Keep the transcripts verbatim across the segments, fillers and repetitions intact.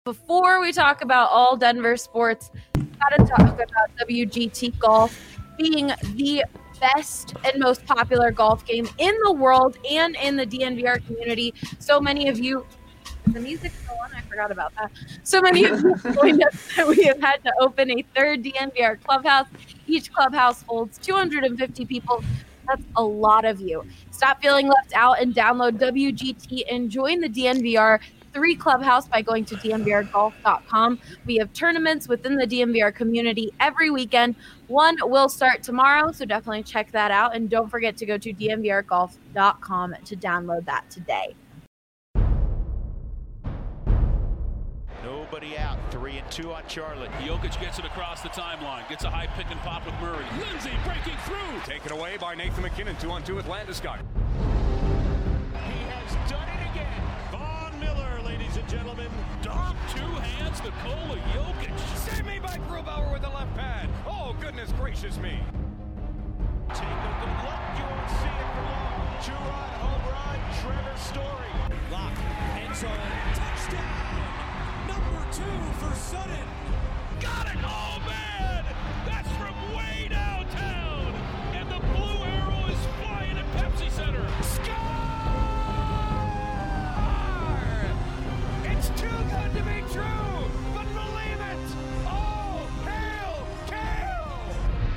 Before we talk about all Denver sports, got to talk about W G T Golf being the best and most popular golf game in the world and in the D N V R community. So many of you, the music still on? I forgot about that. So many of you joined us that we have had to open a third D N V R clubhouse. Each clubhouse holds two hundred fifty people. That's a lot of you. Stop feeling left out and download W G T and join the D N V R three clubhouse by going to D N V R golf dot com. We have tournaments within the D N V R community every weekend. One will start tomorrow, so definitely check that out. And don't forget to go to D N V R golf dot com to download that today. Nobody out. Three and two on Charlotte. Jokic gets it across the timeline. Gets a high pick and pop with Murray. Lindsay breaking through. Taken away by Nathan McKinnon. Two on two with Landeskog. He has done it again. Von Miller, ladies and gentlemen. Dom, two hands, Nikola Jokic. Save me by Grubauer with the left pad. Oh, goodness gracious me. Take a good look. You won't see it for long. Two-run home run. Trevor Story. Lock. End zone. Touchdown. Number two for Sutton. Got it. Oh, man. That's from way downtown. And the blue arrow is flying at Pepsi Center. Score! It's too good to be true, but believe it. Oh, hail, Kale!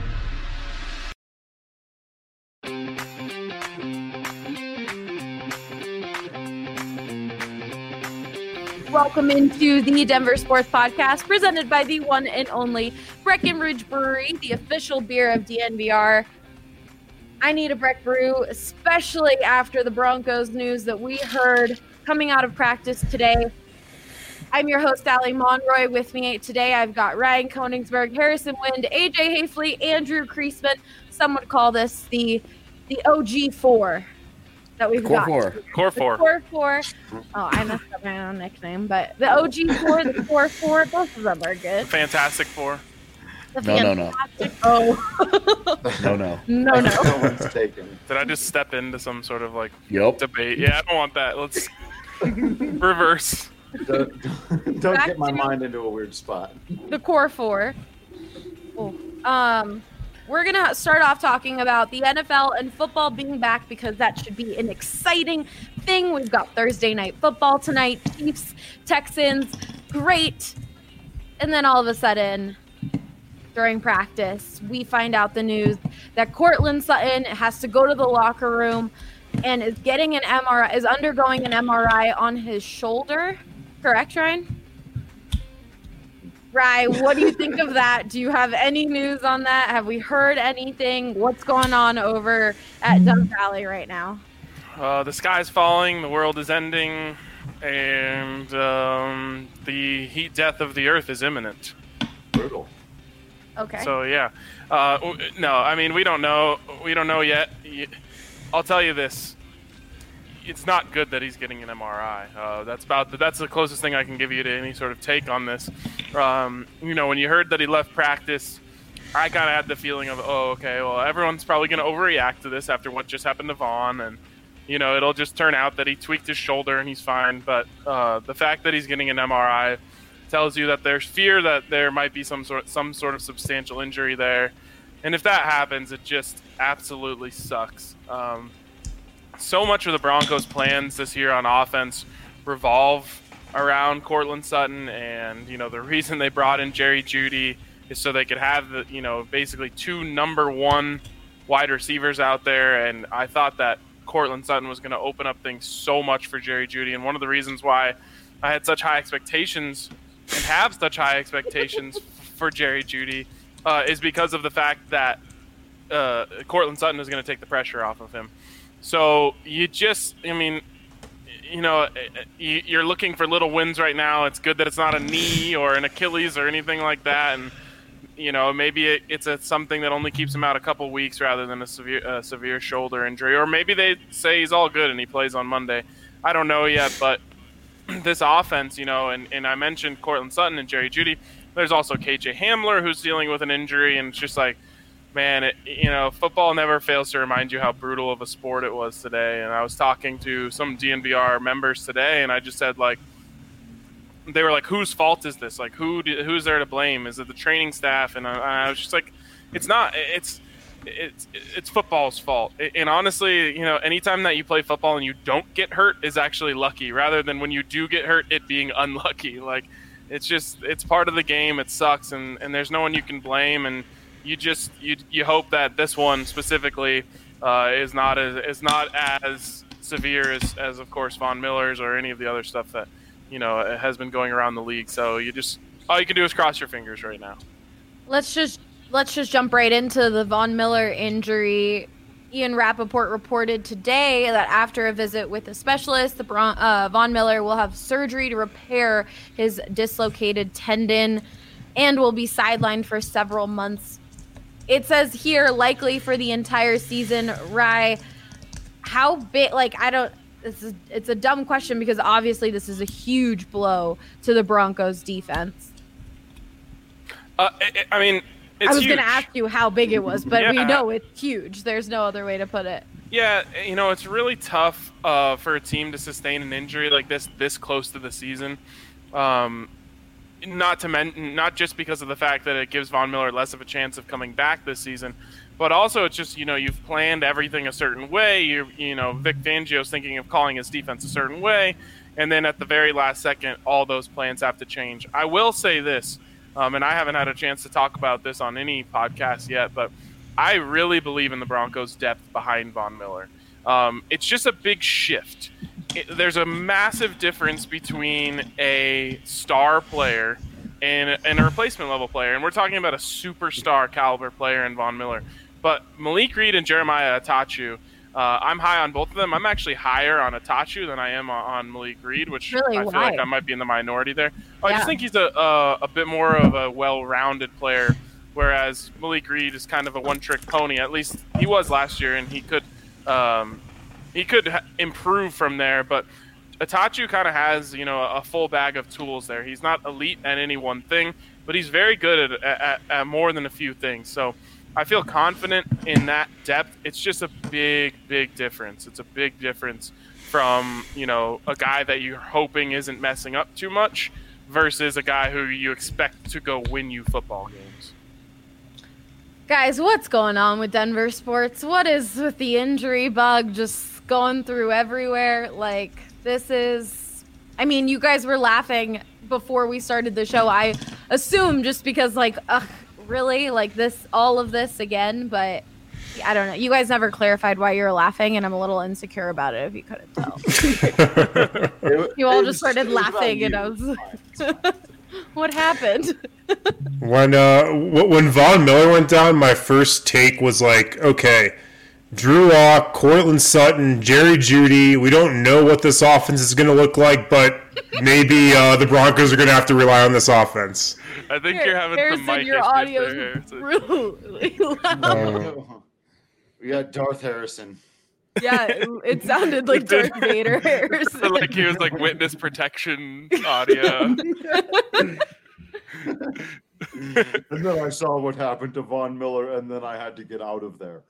Welcome into the Denver Sports Podcast, presented by the one and only Breckenridge Brewery, the official beer of D N V R. I need a Breck Brew, especially after the Broncos news that we heard coming out of practice today. I'm your host, Allie Monroy. With me today, I've got Ryan Koenigsberg, Harrison Wind, A J Hafley, Andrew Kreisman. Some would call this the the O G four that we've Core got. four. Core The four. Core four. Oh, I messed up my own nickname, but the O G four, the Core four, both of them are good. Fantastic Four. The No, no, no. fantastic- Oh. No, no. no, no. No one's taken. Did I just step into some sort of like Yep. debate? Yeah, I don't want that. Let's reverse. Don't, don't Back get my to- mind into a weird spot. The Core Four. Oh. Um, we're gonna start off talking about the N F L and football being back because that should be an exciting thing. We've got Thursday night football tonight. Chiefs, Texans, great. And then all of a sudden, during practice, we find out the news that Cortland Sutton has to go to the locker room and is getting an M R I, is undergoing an M R I on his shoulder. Correct, Ryan? Ryan, what do you think of that? Do you have any news on that? Have we heard anything? What's going on over at Dove Valley right now? Uh, the sky's falling, the world is ending, and um, the heat death of the earth is imminent. Brutal. Okay. So yeah, uh, w- no, I mean we don't know. We don't know yet. Y- I'll tell you this: it's not good that he's getting an M R I. Uh, that's about the, that's the closest thing I can give you to any sort of take on this. Um, you know, when you heard that he left practice, I kind of had the feeling of, oh, okay, well, everyone's probably going to overreact to this after what just happened to Vaughn, and you know, it'll just turn out that he tweaked his shoulder and he's fine. But uh, the fact that he's getting an M R I tells you that there's fear that there might be some sort some sort of substantial injury there, and if that happens, it just absolutely sucks. Um, so much of the Broncos' plans this year on offense revolve around Cortland Sutton, and you know the reason they brought in Jerry Jeudy is so they could have the you know basically two number one wide receivers out there, and I thought that Cortland Sutton was going to open up things so much for Jerry Jeudy, and one of the reasons why I had such high expectations and have such high expectations for Jerry Jeudy uh, is because of the fact that uh, Cortland Sutton is going to take the pressure off of him. So you just, I mean, you know, you're looking for little wins right now. It's good that it's not a knee or an Achilles or anything like that, and you know, maybe it, it's a, something that only keeps him out a couple weeks rather than a severe a severe shoulder injury, or maybe they say he's all good and he plays on Monday. I don't know yet, but this offense, you know, and, and I mentioned Cortland Sutton and Jerry Jeudy. There's also K J Hamler who's dealing with an injury, and it's just like, man, it, you know, football never fails to remind you how brutal of a sport it was today. And I was talking to some D N V R members today, and I just said, like, they were like, whose fault is this? Like, who do, who's there to blame? Is it the training staff? And I, I was just like, it's not. It's it's it's football's fault. And honestly, you know, anytime that you play football and you don't get hurt is actually lucky, rather than when you do get hurt, it being unlucky. Like, it's just it's part of the game. It sucks, and, and there's no one you can blame. And you just you you hope that this one specifically uh, is not as is not as severe as, as of course Von Miller's or any of the other stuff that you know has been going around the league. So you just all you can do is cross your fingers right now. Let's just let's just jump right into the Von Miller injury. Ian Rappaport reported today that after a visit with a specialist, the Bron- uh, Von Miller will have surgery to repair his dislocated tendon and will be sidelined for several months. It says here likely for the entire season. Rye, how big? Like I don't. This is it's a dumb question because obviously this is a huge blow to the Broncos defense. Uh, I, I mean, it's I was huge. going to ask you how big it was, but Yeah. we know it's huge. There's no other way to put it. Yeah, you know, it's really tough uh, for a team to sustain an injury like this this close to the season. Um, not to men- not just because of the fact that it gives Von Miller less of a chance of coming back this season, but also it's just, you know, you've planned everything a certain way. You you know, Vic Fangio's thinking of calling his defense a certain way, and then at the very last second, all those plans have to change. I will say this, um, and I haven't had a chance to talk about this on any podcast yet, but I really believe in the Broncos' depth behind Von Miller. Um, it's just a big shift. It, there's a massive difference between a star player and, and a replacement level player, and we're talking about a superstar caliber player in Von Miller. But Malik Reed and Jeremiah Atachu, uh, I'm high on both of them. I'm actually higher on Atachu than I am on, on Malik Reed, which Really? I feel Why? like I might be in the minority there. I Yeah. just think he's a, a a bit more of a well-rounded player, whereas Malik Reed is kind of a one-trick pony. At least he was last year, and he could um, he could ha- improve from there. But Atachu kind of has, you know, a full bag of tools there. He's not elite at any one thing, but he's very good at, at, at more than a few things. So I feel confident in that depth. It's just a big, big difference. It's a big difference from, you know, a guy that you're hoping isn't messing up too much versus a guy who you expect to go win you football games. Guys, what's going on with Denver sports? What is with the injury bug just going through everywhere? Like, this is... I mean, you guys were laughing before we started the show. I assume just because, like, ugh, really? Like, this, all of this again? But I don't know. You guys never clarified why you were laughing, and I'm a little insecure about it, if you couldn't tell. It- You all it just was- started it was about laughing, and you. I was... What happened? When uh, w- when Von Miller went down, my first take was like, okay, Drew Lock, Cortland Sutton, Jerry Jeudy. We don't know what this offense is going to look like, but maybe uh, the Broncos are going to have to rely on this offense. I think you're having some Harrison, mic your issues audio there, is Harrison. really loud. Uh, We got Darth Harrison. Yeah, it, it sounded like Darth Vader. Harrison. Like he was like witness protection audio. And then I saw what happened to Von Miller, and then I had to get out of there.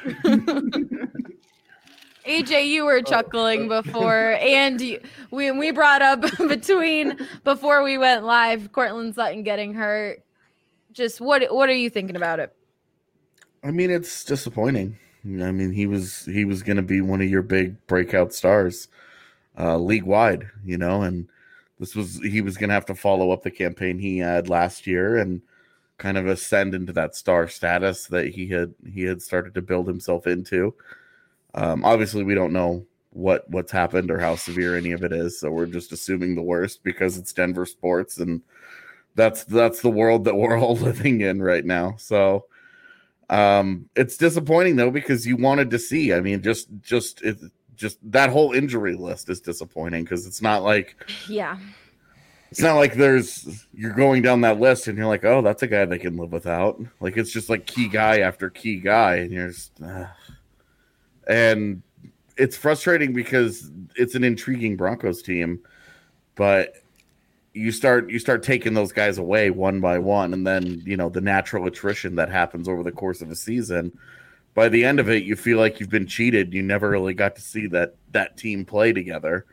A J, you were chuckling before, and you, we we brought up between before we went live, Cortland Sutton getting hurt. Just what what are you thinking about it? I mean, it's disappointing. I mean, he was he was going to be one of your big breakout stars, uh, league wide, you know, and this was he was going to have to follow up the campaign he had last year and kind of ascend into that star status that he had he had started to build himself into. Um, obviously, we don't know what what's happened or how severe any of it is, so we're just assuming the worst because it's Denver sports, and that's that's the world that we're all living in right now. So. Um, it's disappointing though because you wanted to see. I mean, just just it just that whole injury list is disappointing because it's not like Yeah, it's not like there's you're going down that list and you're like, oh, that's a guy they can live without. Like it's just like key guy after key guy, and you're just, uh, and it's frustrating because it's an intriguing Broncos team, but. You start you start taking those guys away one by one, and then you know the natural attrition that happens over the course of a season. By the end of it, you feel like you've been cheated. You never really got to see that that team play together,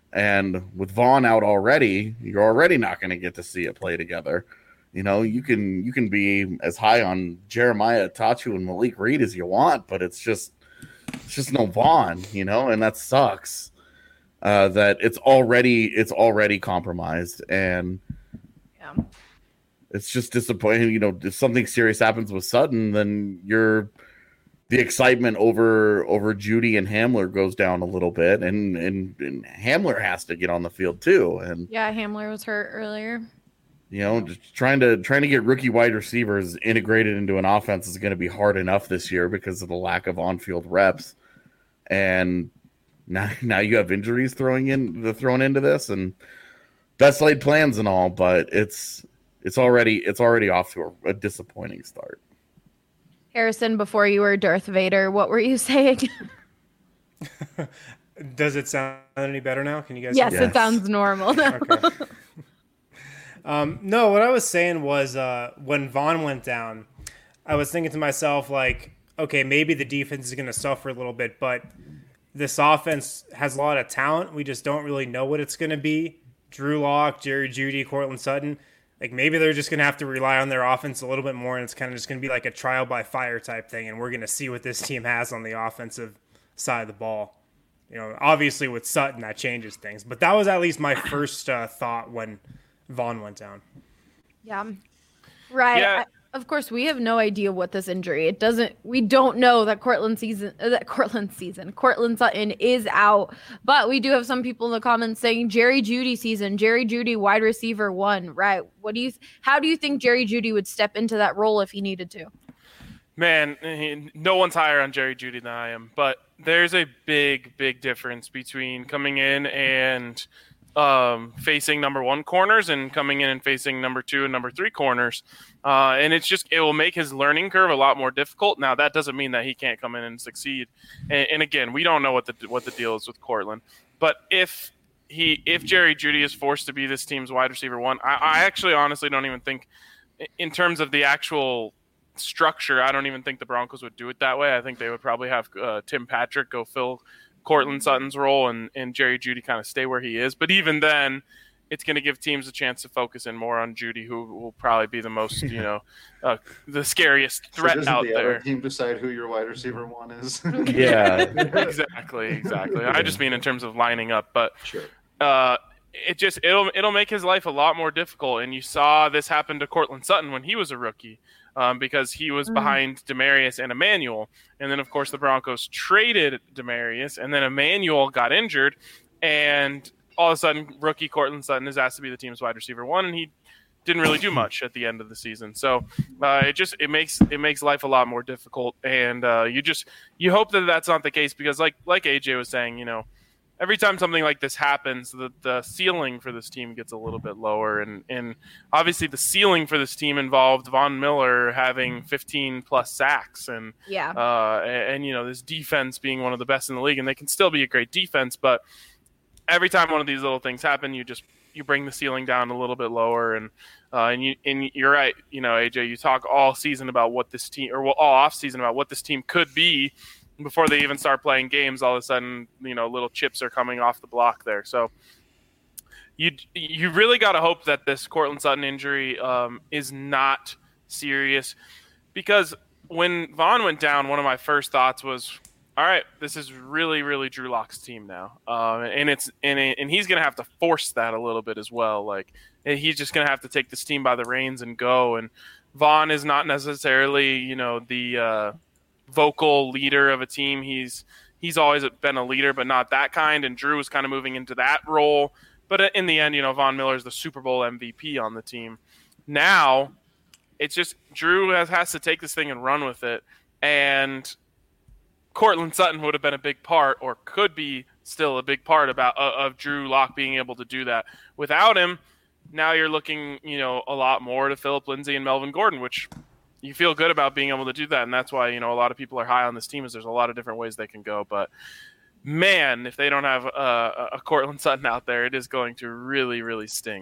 And with Vaughn out already, you're already not going to get to see it play together. You know, you can you can be as high on Jeremiah Tachu and Malik Reed as you want, but it's just it's just no Vaughn, you know, and that sucks. Uh, that it's already it's already compromised, and Yeah. it's just disappointing. You know, if something serious happens with Sutton, then you're the excitement over over Judy and Hamler goes down a little bit, and, and and Hamler has to get on the field too. And Yeah, Hamler was hurt earlier. you know, just trying to trying to get rookie wide receivers integrated into an offense is going to be hard enough this year because of the lack of on-field reps. And now now you have injuries throwing in the thrown into this, and best laid plans and all, but it's it's already it's already off to a, a disappointing start. Harrison, before you were Darth Vader, what were you saying? Does it sound any better now? Can you guys? Yes, Yes. it sounds normal now. Okay. um, no, what I was saying was uh, when Vaughn went down, I was thinking to myself, like, okay, maybe the defense is going to suffer a little bit, but this offense has a lot of talent. We just don't really know what it's going to be. Drew Lock, Jerry Jeudy, Cortland Sutton. Like, maybe they're just going to have to rely on their offense a little bit more, and it's kind of just going to be like a trial by fire type thing, and we're going to see what this team has on the offensive side of the ball. You know, obviously with Sutton, that changes things. But that was at least my first uh, thought when Vaughn went down. Yeah. Right. Yeah. I, of course, we have no idea what this injury. It doesn't. We don't know that Cortland season. Uh, that Cortland season. Cortland Sutton is out. But we do have some people in the comments saying Jerry Jeudy season. Jerry Jeudy, wide receiver one. Right. What do you? How do you think Jerry Jeudy would step into that role if he needed to? Man, he- no one's higher on Jerry Jeudy than I am, but there's a big, big difference between coming in and um, facing number one corners and coming in and facing number two and number three corners. Uh, and it's just, it will make his learning curve a lot more difficult. Now, that doesn't mean that he can't come in and succeed. And, and again, we don't know what the what the deal is with Cortland. But if he, if Jerry Jeudy is forced to be this team's wide receiver one, I, I actually honestly don't even think, in terms of the actual structure, I don't even think the Broncos would do it that way. I think they would probably have uh, Tim Patrick go fill Cortland Sutton's role and, and Jerry Jeudy kind of stay where he is. But even then, it's going to give teams a chance to focus in more on Jeudy, who will probably be the most, you know, uh, the scariest threat so doesn't out the there. other team decide who your wide receiver one is? Yeah. exactly, exactly. I just mean in terms of lining up, but Sure. uh, it just it'll it'll make his life a lot more difficult. And you saw this happen to Cortland Sutton when he was a rookie. Um, because he was behind Demarius and Emmanuel. And then, of course, the Broncos traded Demarius, and then Emmanuel got injured, and all of a sudden, rookie Cortland Sutton is asked to be the team's wide receiver one, and he didn't really do much at the end of the season. So uh, it just it makes it makes life a lot more difficult, and uh, you just you hope that that's not the case because, like like A J was saying, you know, every time something like this happens, the, the ceiling for this team gets a little bit lower. And, and obviously the ceiling for this team involved Von Miller having fifteen plus sacks and, Yeah. uh, and, and, you know, this defense being one of the best in the league, and they can still be a great defense. But every time one of these little things happen, you just, you bring the ceiling down a little bit lower. And, uh, and you, and you're right. You know, A J, you talk all season about what this team, or all off season about what this team could be. Before they even start playing games, all of a sudden, you know, little chips are coming off the block there. So you you really got to hope that this Cortland Sutton injury um, is not serious, because when Vaughn went down, one of my first thoughts was, all right, this is really, really Drew Lock's team now, um, and it's and it, and he's going to have to force that a little bit as well. Like he's just going to have to take this team by the reins and go. And Vaughn is not necessarily, you know, the uh, vocal leader of a team. He's he's always been a leader, but not that kind. And Drew is kind of moving into that role. But in the end, you know, Von Miller is the Super Bowl M V P on the team. Now, it's just Drew has, has to take this thing and run with it. And Cortland Sutton would have been a big part, or could be still a big part about uh, of Drew Lock being able to do that. Without him, now you're looking, you know, a lot more to Phillip Lindsay and Melvin Gordon, which you feel good about being able to do that. And that's why, you know, a lot of people are high on this team, is there's a lot of different ways they can go. But man, if they don't have uh, a Cortland Sutton out there, it is going to really, really sting.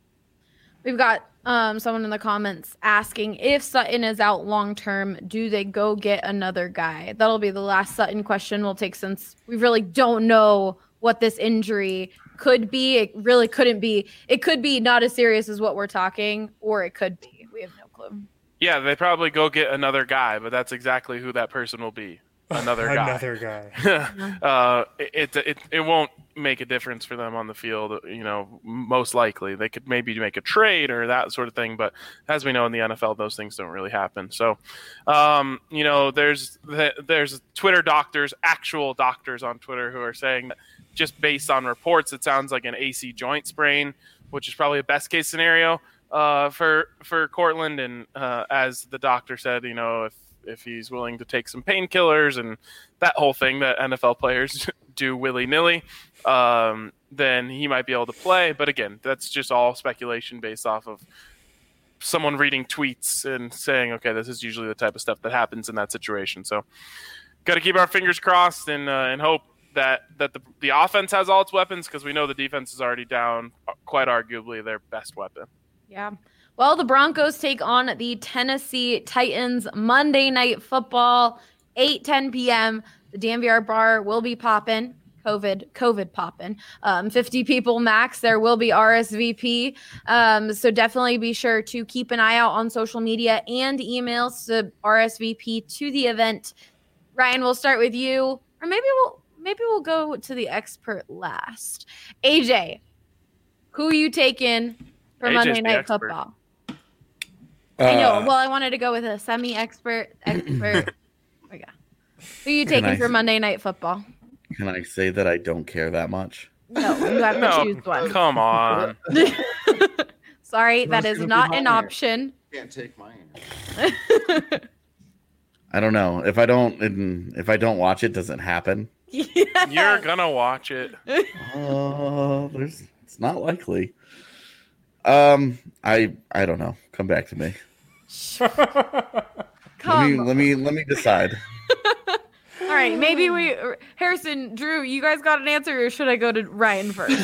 We've got um, someone in the comments asking, if Sutton is out long term, do they go get another guy? That'll be the last Sutton question we'll take, since we really don't know what this injury could be. It really couldn't be. It could be not as serious as what we're talking, or it could be. We have no clue. Yeah, they probably go get another guy, but that's exactly who that person will be. Another guy. Another guy. uh, it, it it won't make a difference for them on the field. You know, most likely they could maybe make a trade or that sort of thing. But as we know in the N F L, those things don't really happen. So, um, you know, there's there's Twitter doctors, actual doctors on Twitter who are saying that just based on reports, it sounds like an A C joint sprain, which is probably a best case scenario uh, for for Courtland. And uh, as the doctor said, you know, if if he's willing to take some painkillers and that whole thing that N F L players do willy-nilly, um, then he might be able to play. But again, that's just all speculation based off of someone reading tweets and saying, okay, this is usually the type of stuff that happens in that situation. So got to keep our fingers crossed and uh, and hope that, that the, the offense has all its weapons, because we know the defense is already down, quite arguably their best weapon. Yeah. Well, the Broncos take on the Tennessee Titans Monday Night Football, eight ten p.m. The D N V R bar will be popping. COVID, COVID popping. Um, fifty people max. There will be R S V P. Um, so definitely be sure to keep an eye out on social media and emails to R S V P to the event. Ryan, we'll start with you, or maybe we'll maybe we'll go to the expert last. A J, who are you taking for A J's Monday the Night expert. Football? Uh, I know. Well, I wanted to go with a semi-expert. Expert. Okay. Who are you taking I- for Monday Night Football? Can I say that I don't care that much? No, you have to No, choose one. come on. Sorry, That's that is gonna be not my an answer. option. Can't take my answer. I don't know. If I don't if I don't watch it, does it happen? Yes. You're gonna watch it. Uh, there's it's not likely. Um, I I don't know. Come back to me. Come. Let me let me let me decide. All right, maybe we Harrison, Drew, you guys got an answer, or should I go to Ryan first?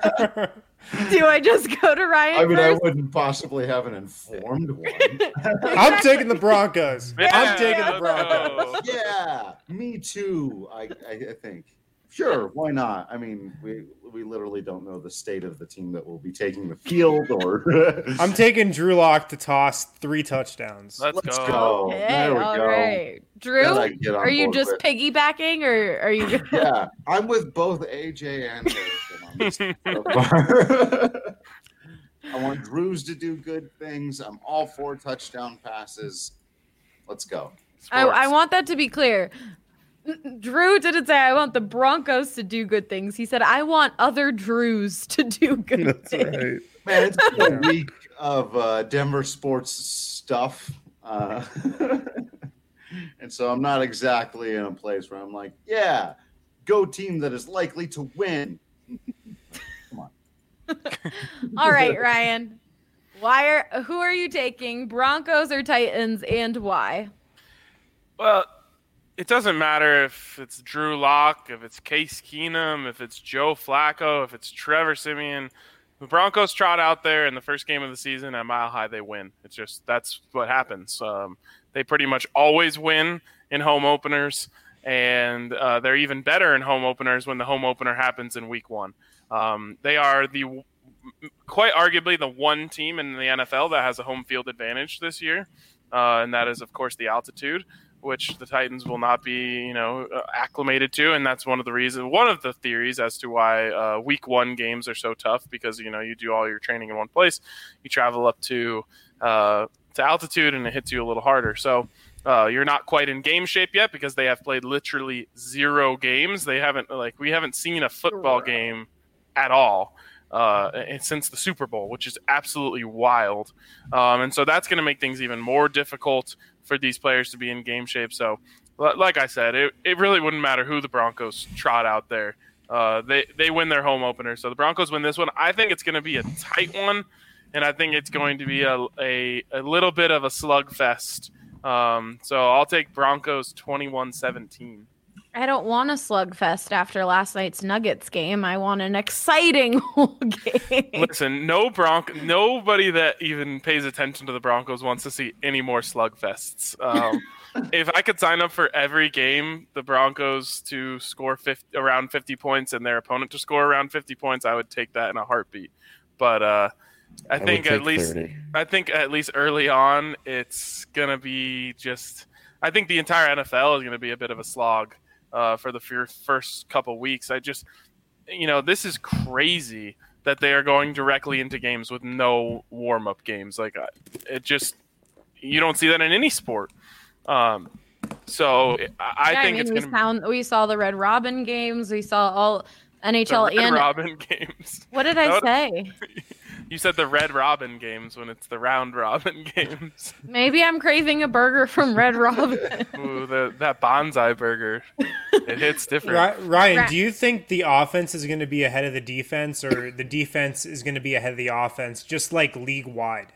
Do I just go to Ryan I mean, I first? wouldn't possibly have an informed one. I'm taking the Broncos. Yeah, I'm taking the let's Broncos. go. Yeah, me too. I, I, I think. Sure, why not? I mean, we we literally don't know the state of the team that will be taking the field, or I'm taking Drew Lock to toss three touchdowns. Let's, let's go. go. Okay, There we all go. right. Drew, Then I can get on are you board just with- piggybacking, or are you? Yeah, I'm with both A J and Harrison on this so far. I want Drews to do good things. I'm all for touchdown passes. Let's go. I, I want that to be clear. Drew didn't say I want the Broncos to do good things. He said I want other Drews to do good That's things. right. Man, it's been a week of uh, Denver sports stuff. Uh, and so I'm not exactly in a place where I'm like, yeah, go team that is likely to win. Come on. All right, Ryan. Why are who are you taking? Broncos or Titans, and why? Well, it doesn't matter if it's Drew Lock, if it's Case Keenum, if it's Joe Flacco, if it's Trevor Siemian. The Broncos trot out there in the first game of the season at Mile High, they win. It's just that's what happens. Um, they pretty much always win in home openers, and uh, they're even better in home openers when the home opener happens in week one. Um, they are the quite arguably the one team in the N F L that has a home field advantage this year, uh, and that is, of course, the altitude, which the Titans will not be, you know, uh, acclimated to, and that's one of the reasons, one of the theories as to why uh, Week One games are so tough, because you know you do all your training in one place, you travel up to uh, to altitude, and it hits you a little harder. So uh, you're not quite in game shape yet because they have played literally zero games. They haven't like we haven't seen a football game at all uh, since the Super Bowl, which is absolutely wild, um, and so that's going to make things even more difficult for these players to be in game shape. So, like I said, it, it really wouldn't matter who the Broncos trot out there. Uh, they, they win their home opener. So the Broncos win this one. I think it's going to be a tight one, and I think it's going to be a, a, a little bit of a slugfest. Um, so I'll take Broncos twenty-one seventeen. I don't want a slugfest after last night's Nuggets game. I want an exciting whole game. Listen, no Bronco, nobody that even pays attention to the Broncos wants to see any more slugfests. Um, if I could sign up for every game, the Broncos to score fifty, around fifty points and their opponent to score around fifty points, I would take that in a heartbeat. But uh, I, I think at least thirty. I think at least early on, it's gonna be just. I think the entire N F L is gonna be a bit of a slog. Uh, for the first couple weeks. I just, you know, this is crazy that they are going directly into games with no warm-up games. Like, it just, you don't see that in any sport. Um, so I yeah, think I mean, it's we going found, we saw the Red Robin games. We saw all N H L the Red and Robin games. What did I say? You said the Red Robin games when it's the Round Robin games. Maybe I'm craving a burger from Red Robin. Ooh, the, that bonsai burger. It hits different. Ryan, do you think the offense is going to be ahead of the defense, or the defense is going to be ahead of the offense, just like league-wide?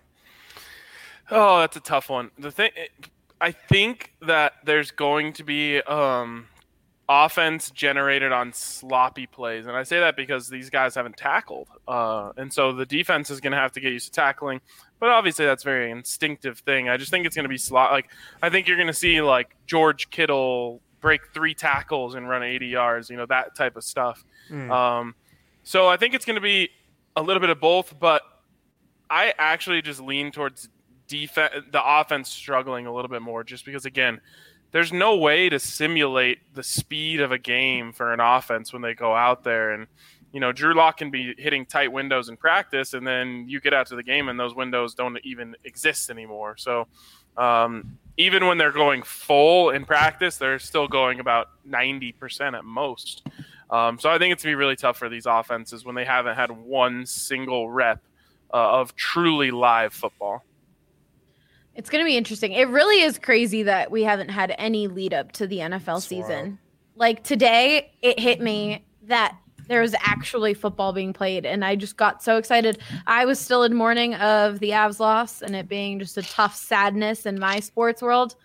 Oh, that's a tough one. The thing, I think that there's going to be um, offense generated on sloppy plays, and I say that because these guys haven't tackled, uh, and so the defense is going to have to get used to tackling. But obviously, that's a very instinctive thing. I just think it's going to be slot. Like I think you're going to see like George Kittle break three tackles and run eighty yards. You know, that type of stuff. Mm. Um, so I think it's going to be a little bit of both, but I actually just lean towards defense, the offense struggling a little bit more, just because again. There's no way to simulate the speed of a game for an offense when they go out there. And, you know, Drew Lock can be hitting tight windows in practice, and then you get out to the game and those windows don't even exist anymore. So um, even when they're going full in practice, they're still going about ninety percent at most. Um, so I think it's going to be really tough for these offenses when they haven't had one single rep uh, of truly live football. It's going to be interesting. It really is crazy that we haven't had any lead up to the N F L season. Like today, it hit me that there was actually football being played, and I just got so excited. I was still in mourning of the Avs loss and it being just a tough sadness in my sports world.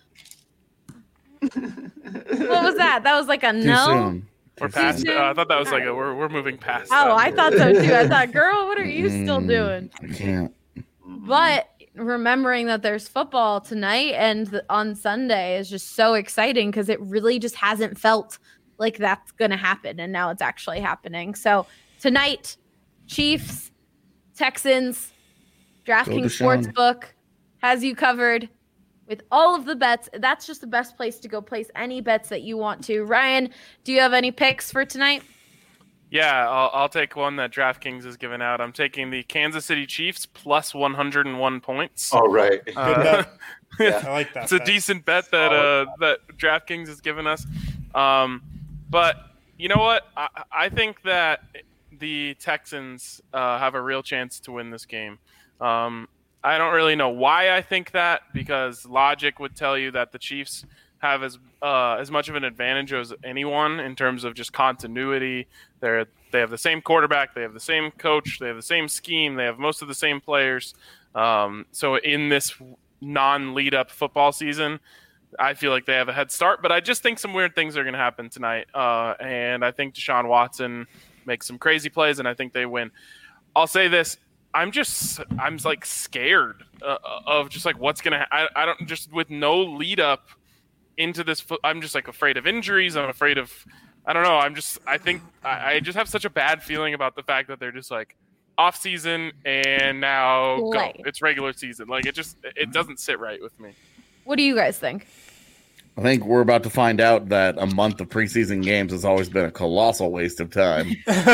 What was that? That was like a Too no. soon. We're past. Uh, I thought that was like a, we're we're moving past. Oh, that. I thought so too. I thought, girl, what are you still doing? I can't. But remembering that there's football tonight and on Sunday is just so exciting because it really just hasn't felt like that's going to happen. And now it's actually happening. So tonight, Chiefs, Texans, DraftKings Sportsbook has you covered with all of the bets. That's just the best place to go place any bets that you want to. Ryan, do you have any picks for tonight? Yeah, I'll, I'll take one that DraftKings has given out. I'm taking the Kansas City Chiefs plus one hundred one points. Oh, right. Uh, yeah, I like that. It's a bet. decent bet that uh, that DraftKings has given us. Um, but you know what? I, I think that the Texans uh, have a real chance to win this game. Um, I don't really know why I think that, because logic would tell you that the Chiefs have as uh, as much of an advantage as anyone in terms of just continuity. They're they have the same quarterback, they have the same coach, they have the same scheme, they have most of the same players. Um, so in this non-lead up football season, I feel like they have a head start. But I just think some weird things are going to happen tonight, uh, and I think Deshaun Watson makes some crazy plays, and I think they win. I'll say this. I'm just, I'm like scared uh, of just like what's going to, ha- I, I don't just with no lead up into this. I'm just like afraid of injuries. I'm afraid of, I don't know. I'm just, I think I, I just have such a bad feeling about the fact that they're just like off season and now Play. go. It's regular season. Like it just, it doesn't sit right with me. What do you guys think? I think we're about to find out that a month of preseason games has always been a colossal waste of time.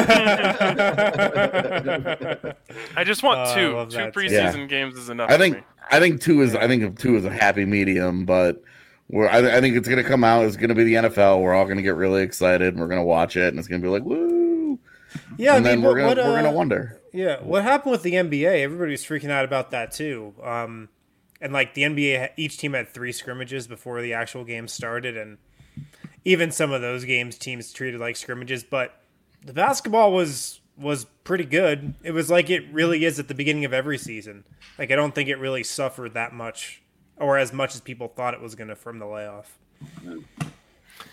I just want Oh, I two. love Two that, too. preseason Yeah. games is enough I for think me. I think two is I think two is a happy medium, but we're I, I think it's gonna come out. It's gonna be the N F L. We're all gonna get really excited and we're gonna watch it, and it's gonna be like woo. Yeah, I and then mean, we're what, gonna what, uh, we're gonna wonder. Yeah, what happened with the N B A? Everybody was freaking out about that too. Um, and like the N B A, each team had three scrimmages before the actual game started, and even some of those games, teams treated like scrimmages. But the basketball was was pretty good. It was like it really is at the beginning of every season. Like I don't think it really suffered that much, or as much as people thought it was going to from the layoff.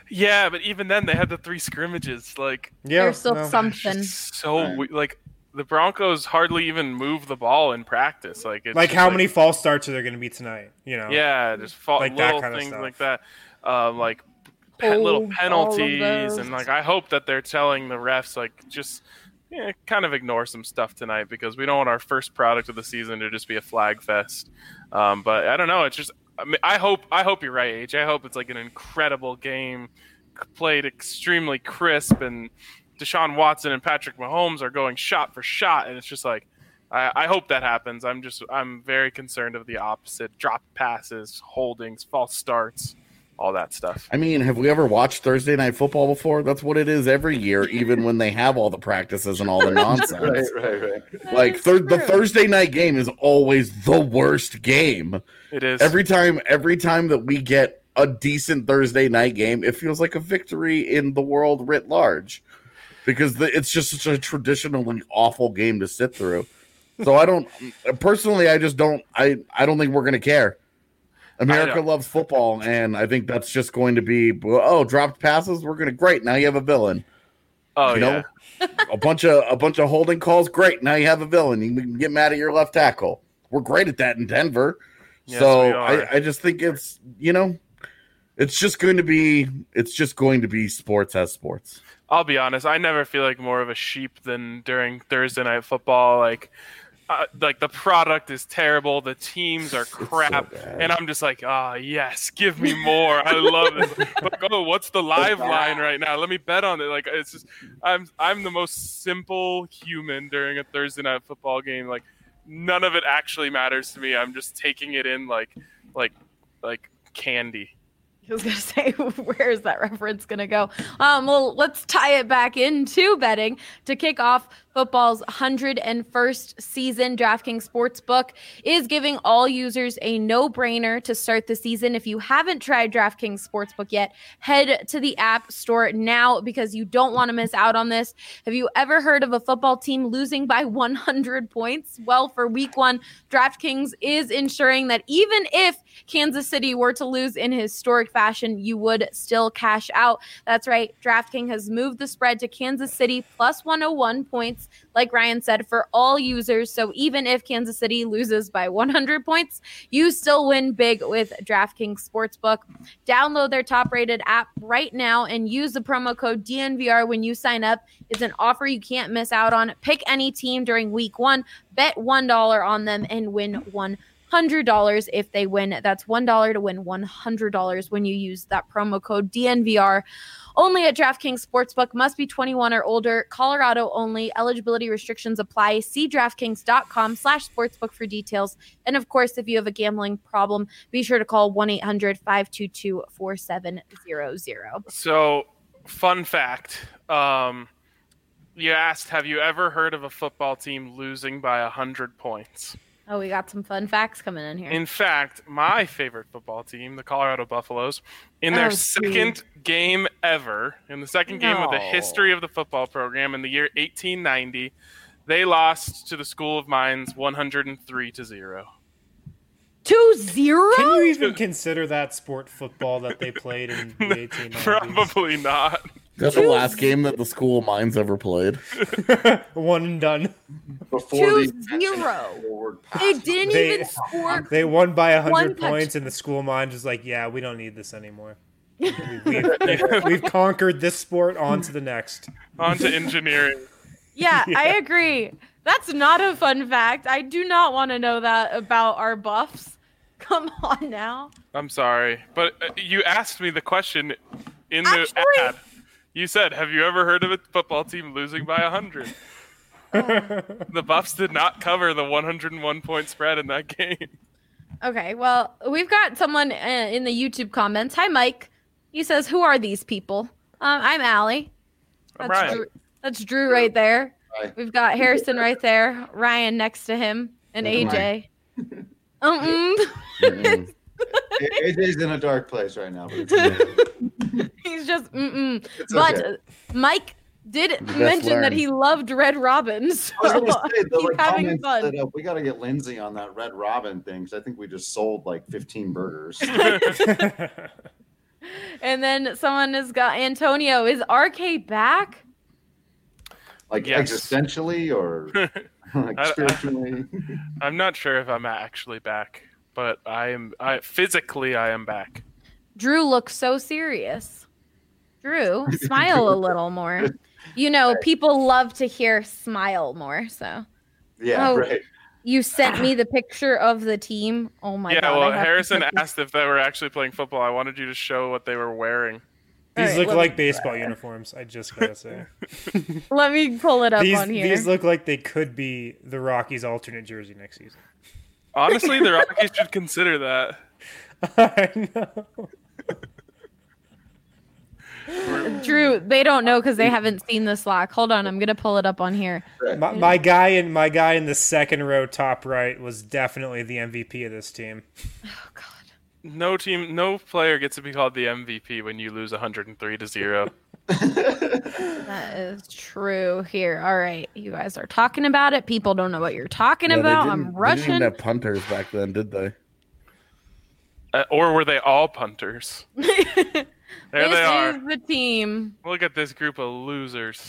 Yeah, but even then they had the three scrimmages. Like, Yeah, There's still no. something. so Right. we- like the Broncos hardly even move the ball in practice. Like, it's Like just how many false starts are there going to be tonight? You know. Yeah, just fa- Like that little kind of things stuff. like that. Um, like pe- little Hold all of penalties, those. and like I hope that they're telling the refs like just yeah, kind of ignore some stuff tonight because we don't want our first product of the season to just be a flag fest. Um, but I don't know. It's just I, mean, I hope I hope you're right, H. I hope it's like an incredible game, c- played extremely crisp, and Deshaun Watson and Patrick Mahomes are going shot for shot, and it's just like. I, I hope that happens. I'm just I'm very concerned of the opposite: drop passes, holdings, false starts, all that stuff. I mean, have we ever watched Thursday Night Football before? That's what it is every year, even when they have all the practices and all the nonsense. Right, right, right. Like thir- the Thursday night game is always the worst game. It is Every time, every time that we get a decent Thursday night game, it feels like a victory in the world writ large, because the, it's just such a traditionally awful game to sit through. So I don't personally. I just don't. I I don't think we're gonna care. America loves football, and I think that's just going to be. Oh, dropped passes. We're gonna great. Now you have a villain. Oh you yeah. know, a bunch of a bunch of holding calls. Great. Now you have a villain. You can get mad at your left tackle. We're great at that in Denver. Yes, so we are. I, I just think it's you know, it's just going to be it's just going to be sports as sports. I'll be honest. I never feel like more of a sheep than during Thursday night football. Like, uh, like the product is terrible. The teams are crap, bad. and I'm just like, ah, yes, give me more. I love it. Like, oh, what's the live line right now? Let me bet on it. Like, it's just, I'm, I'm the most simple human during a Thursday night football game. Like, none of it actually matters to me. I'm just taking it in like, like, like candy. I was gonna say, where is that reference gonna go? Um, well, let's tie it back into betting to kick off football's one hundred first season. DraftKings Sportsbook is giving all users a no-brainer to start the season. If you haven't tried DraftKings Sportsbook yet, head to the App Store now because you don't want to miss out on this. Have you ever heard of a football team losing by one hundred points? Well, for week one, DraftKings is ensuring that even if Kansas City were to lose in historic fashion, you would still cash out. That's right. DraftKings has moved the spread to Kansas City plus one oh one points, like Ryan said, for all users. So even if Kansas City loses by one hundred points, you still win big with DraftKings Sportsbook. Download their top-rated app right now and use the promo code D N V R when you sign up. It's an offer you can't miss out on. Pick any team during week one, bet one dollar on them, and win one hundred dollars if they win. That's one dollar to win one hundred dollars when you use that promo code D N V R. Only at DraftKings Sportsbook. Must be twenty-one or older. Colorado only. Eligibility restrictions apply. See DraftKings.com slash sportsbook for details. And of course, if you have a gambling problem, be sure to call one eight hundred five two two four seven zero zero. So, fun fact. Um, you asked, have you ever heard of a football team losing by one hundred points? Oh, we got some fun facts coming in here. In fact, my favorite football team, the Colorado Buffaloes, in their Oh, second geez. game ever, in the second game of the No. history of the football program in the year eighteen ninety, they lost to the School of Mines one hundred three to zero. Two zero? Can you even consider that sport football that they played in the eighteen nineties? Probably not. That's the last game that the School of Mines ever played. One and done. Before Two the zero. forward pass. They didn't They- even score. They won by one One hundred touch- points, and the school of mine was like, yeah, we don't need this anymore. We- We've, we've, we've conquered this sport, on to the next. On to engineering. Yeah, I agree. That's not a fun fact. I do not want to know that about our Buffs. Come on now. I'm sorry, but uh, you asked me the question in the Actually- ad. You said, have you ever heard of a football team losing by one hundred? The Buffs did not cover the one hundred one point spread in that game. Okay, well, we've got someone uh, in the YouTube comments. Hi, Mike. He says, who are these people? Um, I'm Allie. I'm That's Ryan. Drew, that's Drew right there. Hi. We've got Harrison right there, Ryan next to him, and A J. Um, Mm-mm. A J's in a dark place right now. But it's, he's just mm-mm. it's But okay. uh, Mike did best mention that learn. he loved Red Robin, so I was gonna say, the keep like, having comments fun. that, uh, we got to get Lindsay on that Red Robin thing because I think we just sold like fifteen burgers. And then someone has got Antonio. Is R K back? Like Yes. existentially or like I- I- spiritually? I'm not sure if I'm actually back, but I am. I physically I am back. Drew looks so serious. Drew, smile a little more. You know, people love to hear smile more. So Yeah, Oh, right. you sent me the picture of the team. Oh my yeah, god! well, I have to Harrison put this- asked if they were actually playing football. I wanted you to show what they were wearing. All These right, look let like me- baseball uniforms. I just gotta say. Let me pull it up these on here. these look like they could be the Rockies' alternate jersey next season. Honestly, the Rockies should consider that. I know. Drew, they don't know because they haven't seen the Slack. Hold on, I'm gonna pull it up on here. My, my guy in my guy in the second row, top right, was definitely the M V P of this team. Oh god. No team, no player gets to be called the M V P when you lose one hundred three to zero. That is true. Here, all right, you guys are talking about it. People don't know what you're talking Yeah, they about. didn't- I'm They didn't Russian. even have punters back then, did they? Uh, or were they all punters? There this they are. is the team. Look at this group of losers.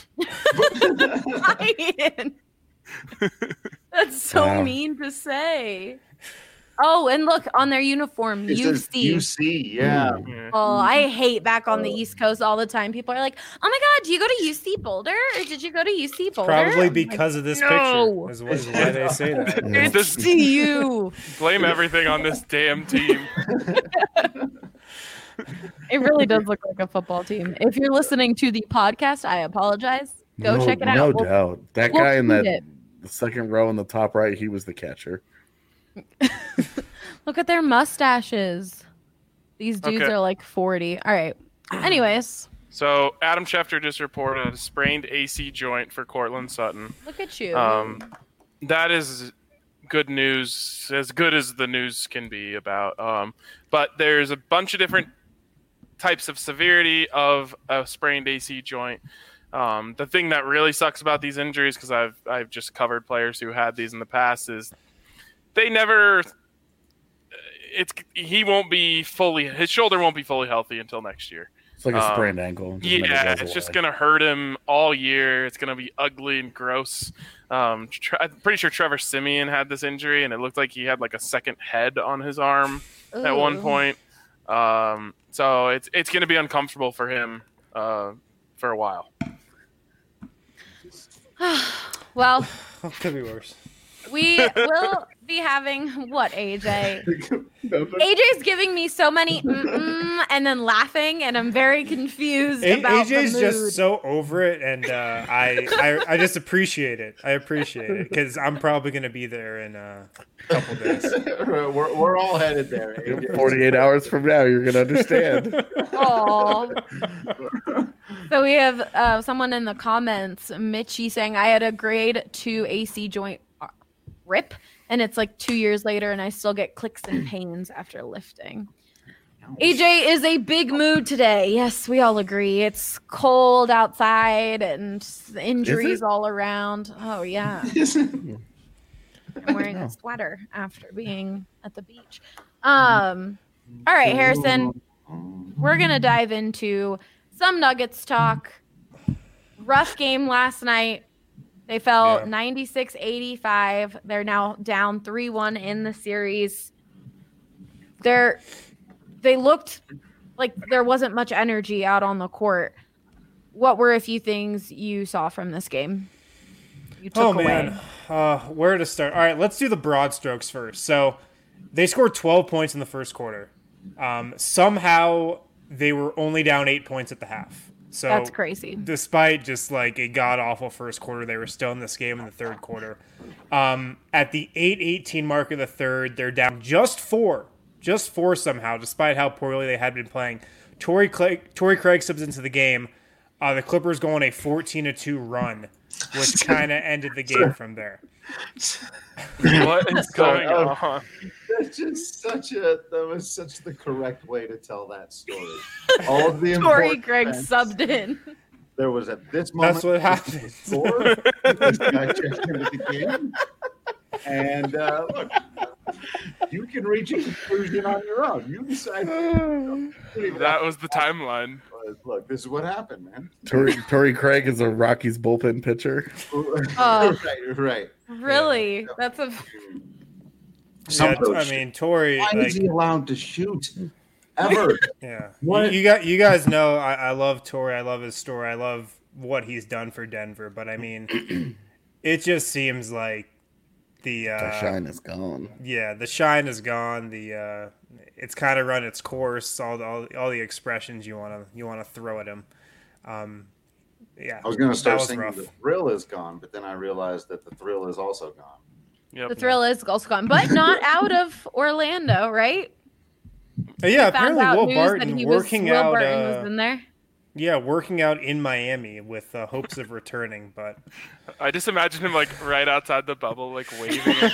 Ryan. That's so Wow. mean to say. Oh, and look on their uniform, It U says C. U C, yeah. Yeah. Oh, I hate back on the East Coast all the time. People are like, "Oh my God, do you go to U C Boulder? Or did you go to U C Boulder?" Probably I'm like, because of this no. picture. Is, is why they say that. Yeah. It's This- to you. Blame everything on this damn team. It really does look like a football team. If you're listening to the podcast, I apologize. Go no, check it out. No We'll- doubt. That we'll guy in tweet that it. the second row in the top right, he was the catcher. Look at their mustaches. These dudes Okay. are like forty. All right. Anyways, So Adam Schefter just reported a sprained A C joint for Cortland Sutton. look at you. Um, that is good news, as good as the news can be about. Um, but there's a bunch of different types of severity of a sprained A C joint. Um, the thing that really sucks about these injuries, because I've I've just covered players who had these in the past, is they never. It's he won't be fully his shoulder won't be fully healthy until next year. It's like a Um, sprained ankle. Just never Yeah, goes it's just away. gonna hurt him all year. It's gonna be ugly and gross. Um, Tre- I'm pretty sure Trevor Simeon had this injury, and it looked like he had like a second head on his arm at one Ooh. point. Um, so it's it's gonna be uncomfortable for him uh, for a while. Well, Could be worse. we will be having what, A J? A J's giving me so many mm-mm and then laughing, and I'm very confused A- about AJ's the mood. just so over it, and uh, I, I I just appreciate it. I appreciate it because I'm probably gonna be there in uh, a couple days. we're, we're all headed there. A J. forty-eight hours from now, you're gonna understand. Aw. So we have uh, someone in the comments, Mitchie, saying I had a grade two A C joint uh, rip, and it's like two years later, and I still get clicks and pains after lifting. A J is a big mood today. Yes, we all agree. It's cold outside and injuries it? all around. Oh yeah, I'm wearing a sweater after being at the beach. Um, all right, Harrison, we're gonna dive into some Nuggets talk. Rough game last night. They fell Yeah. ninety-six eighty-five. They're now down three one in the series. They're they looked like there wasn't much energy out on the court. What were a few things you saw from this game? You took Oh away. man, uh, where to start? All right, let's do the broad strokes first. So they scored twelve points in the first quarter. Um, somehow they were only down eight points at the half. So That's crazy. Despite just like a god awful first quarter, they were still in this game in the third quarter. Um, at the eight eighteen mark of the third, they're down just four, just four somehow, despite how poorly they had been playing. Torrey Craig, Torrey Craig subs into the game. Uh, the Clippers go on a fourteen to two run, which kind of ended the game from there. What is going Oh. on? That's just such a that was such the correct way to tell that story. All of the Torrey important Craig events. subbed in. There was at this moment. That's what happened. Score. This guy checked into the game. And uh, look, You can reach a conclusion on your own. You decide. That was the timeline. Look, this is what happened, man. Torrey, Torrey Craig is a Rockies bullpen pitcher. Oh. right, right. Really? Yeah. That's a. Yeah, I mean, Torrey. Why like, is he allowed to shoot? Ever? Yeah. What? You, you got. You guys know. I, I love Torrey. I love his story. I love what he's done for Denver. But I mean, it just seems like the, uh, the shine is gone. Yeah, the shine is gone. The uh, it's kind of run its course. All the all, all the expressions you want to you want to throw at him. Um, yeah, I was going to start was saying rough. the thrill is gone, but then I realized that the thrill is also gone. Yep. The thrill is also gone, but not out of Orlando, right? Uh, yeah, We found apparently out Will news Barton that he was, working Will out. Barton uh, was in there. Yeah, working out in Miami with uh, hopes of returning, but I just imagine him like right outside the bubble, like waving at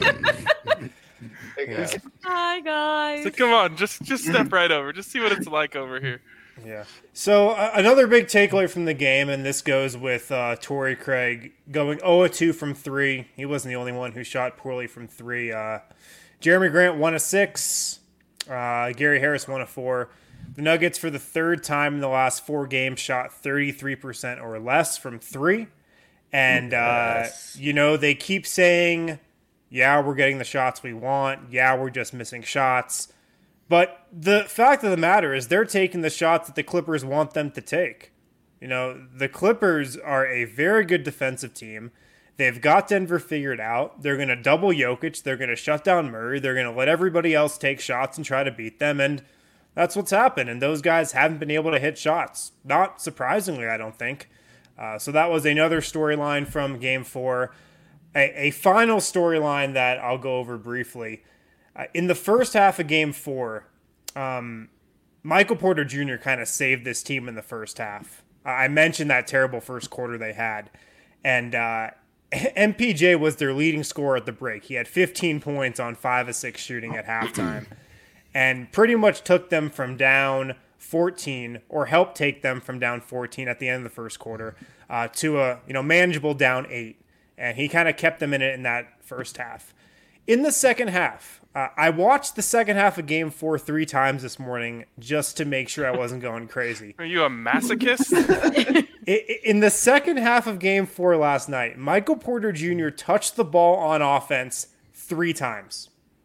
guys. yeah. Hi guys. So come on, just just step right over. Just see what it's like over here. Yeah. So uh, another big takeaway from the game, and this goes with uh, Torrey Craig going zero of two from three. He wasn't the only one who shot poorly from three. Uh, Jeremy Grant one of six. Uh, Gary Harris one of four. The Nuggets, for the third time in the last four games, shot thirty-three percent or less from three. And, Yes. uh, you know, they keep saying, yeah, we're getting the shots we want. Yeah, we're just missing shots. But the fact of the matter is they're taking the shots that the Clippers want them to take. You know, the Clippers are a very good defensive team. They've got Denver figured out. They're going to double Jokic. They're going to shut down Murray. They're going to let everybody else take shots and try to beat them. And that's what's happened. And those guys haven't been able to hit shots. Not surprisingly, I don't think. Uh, so that was another storyline from game four. A, a final storyline that I'll go over briefly. Uh, in the first half of game four, um, Michael Porter Junior kind of saved this team in the first half. Uh, I mentioned that terrible first quarter they had. And uh, M P J was their leading scorer at the break. He had fifteen points on five of six shooting at halftime. And pretty much took them from down fourteen, or helped take them from down fourteen at the end of the first quarter, uh, to a you know manageable down eight. And he kind of kept them in it in that first half. In the second half, uh, I watched the second half of game four three times this morning just to make sure I wasn't going crazy. Are you a masochist? In the second half of game four last night, Michael Porter Junior touched the ball on offense three times.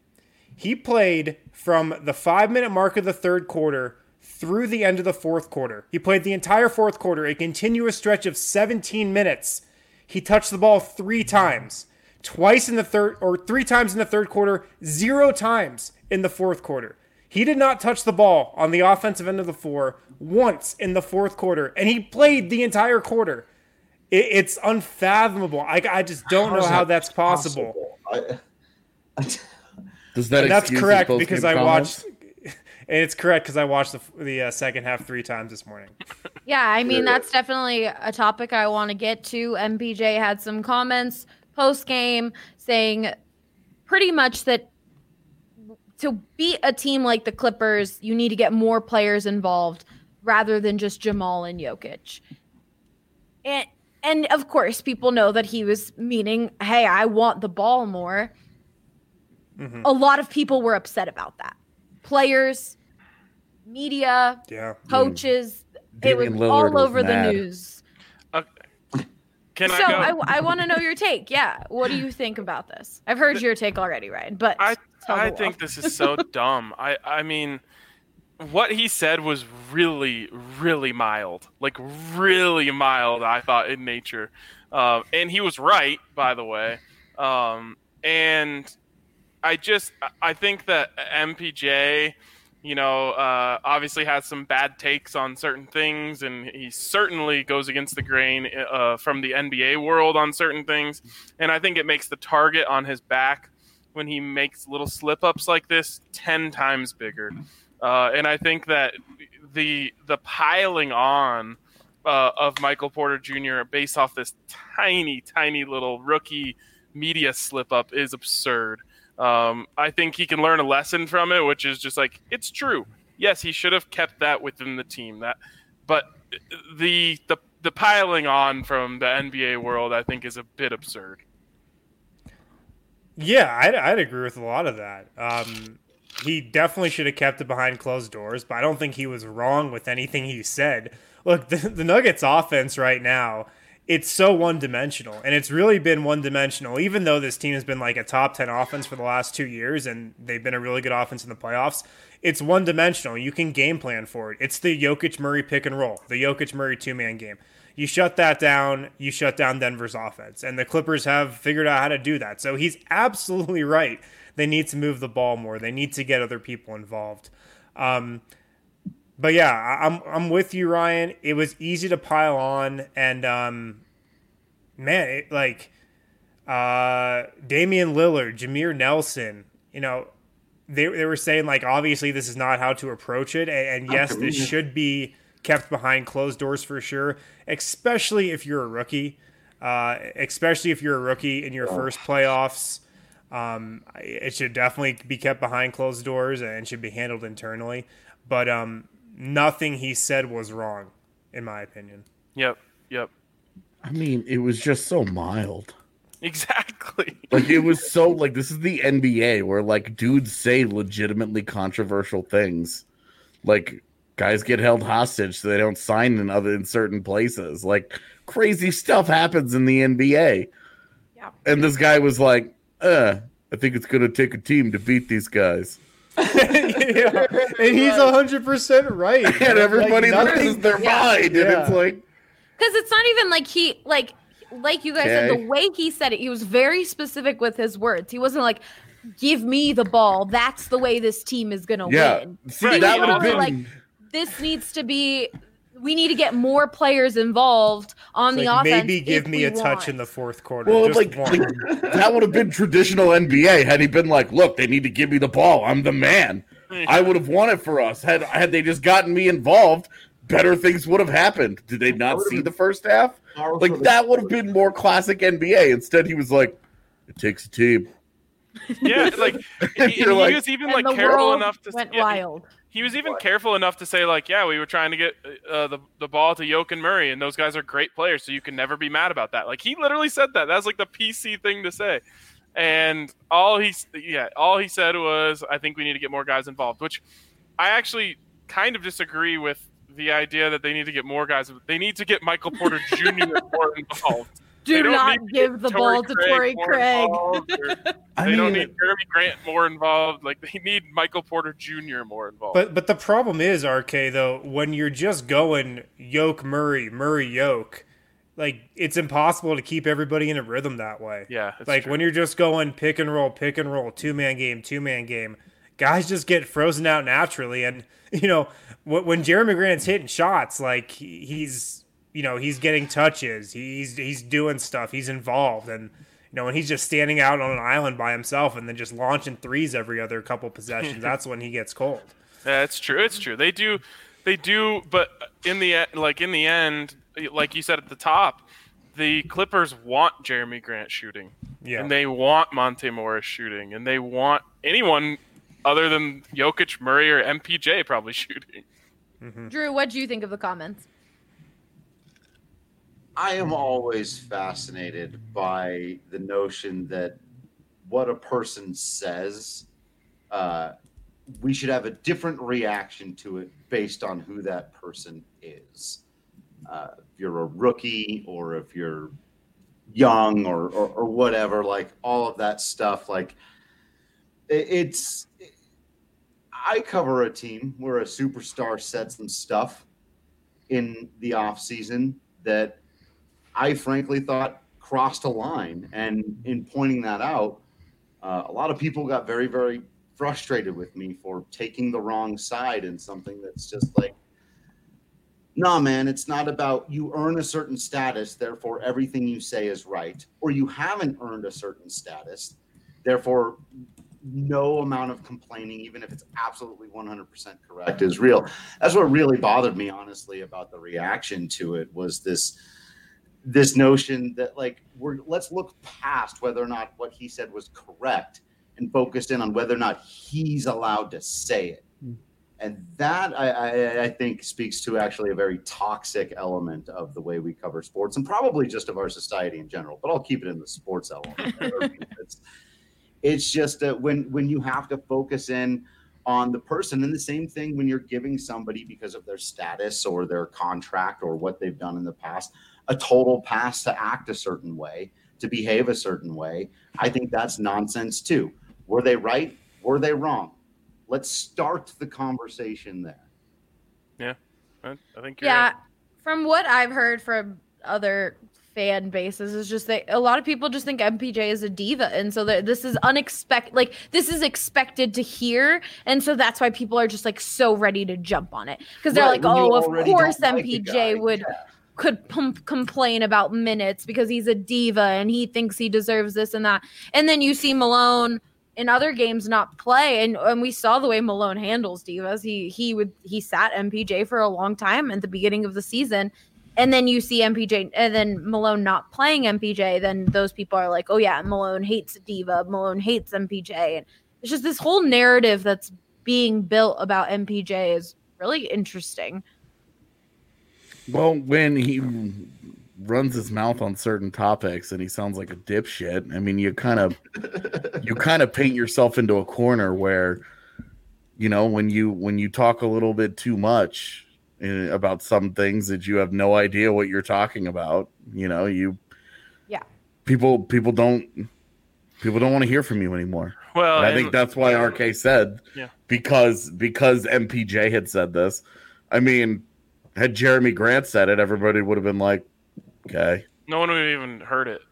He played from the five-minute mark of the third quarter through the end of the fourth quarter. He played the entire fourth quarter, a continuous stretch of seventeen minutes. He touched the ball three times. Twice in the third, or three times in the third quarter, zero times in the fourth quarter. He did not touch the ball on the offensive end of the floor once in the fourth quarter, and he played the entire quarter. It, it's unfathomable. I, I just don't How know is how that that's possible. possible? I, I, Does that And that's excuse his correct post-game because I comments? watched. And it's correct because I watched the the uh, second half three times this morning. Yeah, I mean, that's definitely a topic I want to get to. M P J had some comments post-game saying pretty much that to beat a team like the Clippers, you need to get more players involved rather than just Jamal and Jokic. And, and of course, people know that he was meaning, hey, I want the ball more. Mm-hmm. A lot of people were upset about that. Players, media, Yeah. coaches, Damian it was Lillard all was over mad. the news. Uh, can So I go? I, I want to know your take. Yeah, what do you think about this? I've heard your take already, Ryan, but I tell the I world. think this is so dumb. I I mean, what he said was really really mild, like really mild. I thought in nature, uh, and he was right, by the way. Um, and I just I think that M P J, you know, uh, obviously has some bad takes on certain things, and he certainly goes against the grain uh, from the N B A world on certain things. And I think it makes the target on his back when he makes little slip-ups like this ten times bigger. Uh, and I think that the the piling on uh, of Michael Porter Junior based off this tiny, tiny little rookie media slip-up is absurd. Um, I think he can learn a lesson from it, which is just like, it's true. Yes, he should have kept that within the team. That, but the the the piling on from the N B A world, I think, is a bit absurd. Yeah, I'd, I'd agree with a lot of that. Um, he definitely should have kept it behind closed doors, but I don't think he was wrong with anything he said. Look, the, the Nuggets offense right now, it's so one-dimensional, and it's really been one-dimensional, even though this team has been like a top ten offense for the last two years, and they've been a really good offense in the playoffs. It's one-dimensional. You can game plan for it. It's the Jokic-Murray pick and roll, the Jokic-Murray two-man game. You shut that down, you shut down Denver's offense, and the Clippers have figured out how to do that. So he's absolutely right. They need to move the ball more. They need to get other people involved. Um, But yeah, I'm I'm with you, Ryan. It was easy to pile on, and um, man, it, like uh, Damian Lillard, Jameer Nelson, you know, they they were saying like obviously this is not how to approach it, and, and yes, this should be kept behind closed doors for sure, especially if you're a rookie, uh, especially if you're a rookie in your first playoffs. Um, it should definitely be kept behind closed doors and should be handled internally. But um. Nothing he said was wrong, in my opinion. Yep, yep. I mean, it was just so mild. Exactly. Like, it was so, like, this is the N B A where, like, dudes say legitimately controversial things. Like, guys get held hostage so they don't sign in other in certain places. Like, crazy stuff happens in the N B A. Yeah. And this guy was like, uh, I think it's going to take a team to beat these guys. Yeah. And he's one hundred percent right. And everybody like loses their yeah. mind. Yeah. And it's like, Because it's not even like he, like, like you guys said, Okay. the way he said it, he was very specific with his words. He wasn't like, give me the ball. That's the way this team is going to yeah. win. See, Right. that He would have was been. like, this needs to be, we need to get more players involved on the like, offense. maybe give if me we a touch want. in the fourth quarter. Well, just like, one. like, that would have been traditional N B A had he been like, "Look, they need to give me the ball. I'm the man. I would have won it for us. Had had they just gotten me involved, better things would have happened." Did they not see the first half? Like that would have been more classic N B A. Instead, he was like, "It takes a team." Yeah, like And he, you're he like- was even And like the careful world enough to went yeah, wild. He was even careful enough to say like, yeah, we were trying to get uh, the the ball to Jokic and Murray, and those guys are great players, so you can never be mad about that. Like he literally said that. That's like the P C thing to say. And all he yeah, all he said was, I think we need to get more guys involved, which I actually kind of disagree with the idea that they need to get more guys. They need to get Michael Porter Junior more involved. They Do don't not need to give get the Torrey ball to Torrey more Craig. involved, or I They don't mean- need Jeremy Grant more involved. Like they need Michael Porter Junior more involved. But but the problem is, R K, though, when you're just going Yoke Murray, Murray Yoke, like it's impossible to keep everybody in a rhythm that way. yeah, it's Like true. when you're just going pick and roll, pick and roll, two man game, two man game, guys just get frozen out naturally. And you know when, when Jeremy Grant's hitting shots, like he, he's you know he's getting touches, he's he's doing stuff, he's involved, and you know when he's just standing out on an island by himself and then just launching threes every other couple possessions, that's when he gets cold. Yeah, it's true. It's true. They do, they do. But in the e- like in the end, like you said at the top, the Clippers want Jeremy Grant shooting, Yeah. and they want Monte Morris shooting, and they want anyone other than Jokic, Murray, or M P J probably shooting. Drew, what do you think of the comments? I am always fascinated by the notion that what a person says, uh, we should have a different reaction to it based on who that person is. Uh, if you're a rookie or if you're young or, or, or whatever, like all of that stuff, like it, it's, I cover a team where a superstar said some stuff in the off season that I frankly thought crossed a line. And in pointing that out, uh, a lot of people got very, very frustrated with me for taking the wrong side in something that's just like, nah, man, it's not about you earn a certain status, therefore everything you say is right, or you haven't earned a certain status, therefore no amount of complaining, even if it's absolutely one hundred percent correct, is real. That's what really bothered me, honestly, about the reaction to it was this this notion that like we're let's look past whether or not what he said was correct and focus in on whether or not he's allowed to say it. And that I, I, I think speaks to actually a very toxic element of the way we cover sports and probably just of our society in general, but I'll keep it in the sports element. it's, It's just that when when you have to focus in on the person, and the same thing when you're giving somebody, because of their status or their contract or what they've done in the past, a total pass to act a certain way, to behave a certain way. I think that's nonsense too. Were they right? Were they wrong? Let's start the conversation there. Yeah, I think you're Yeah, right. from what I've heard from other fan bases is just that a lot of people just think M P J is a diva, and so that this is unexpected. Like this is expected to hear, and so that's why people are just like so ready to jump on it because they're Right, like, when you oh, of already course don't like the M P J guy. would Yeah. could pump, complain about minutes because he's a diva and he thinks he deserves this and that, and then you see Malone in other games not play, and, and we saw the way Malone handles divas. He he would he sat M P J for a long time at the beginning of the season. And then you see M P J, and then Malone not playing M P J, then those people are like, oh, yeah, Malone hates Diva. Malone hates M P J. And it's just this whole narrative that's being built about M P J is really interesting. Well, when he runs his mouth on certain topics and he sounds like a dipshit, I mean, you kind of you kind of paint yourself into a corner where, you know, when you when you talk a little bit too much about some things that you have no idea what you're talking about, you know, you yeah people people don't people don't want to hear from you anymore. Well, and I and- think that's why R K said Yeah. because because M P J had said this. I mean, had Jeremy Grant said it, everybody would have been like, okay, No one would have even heard it.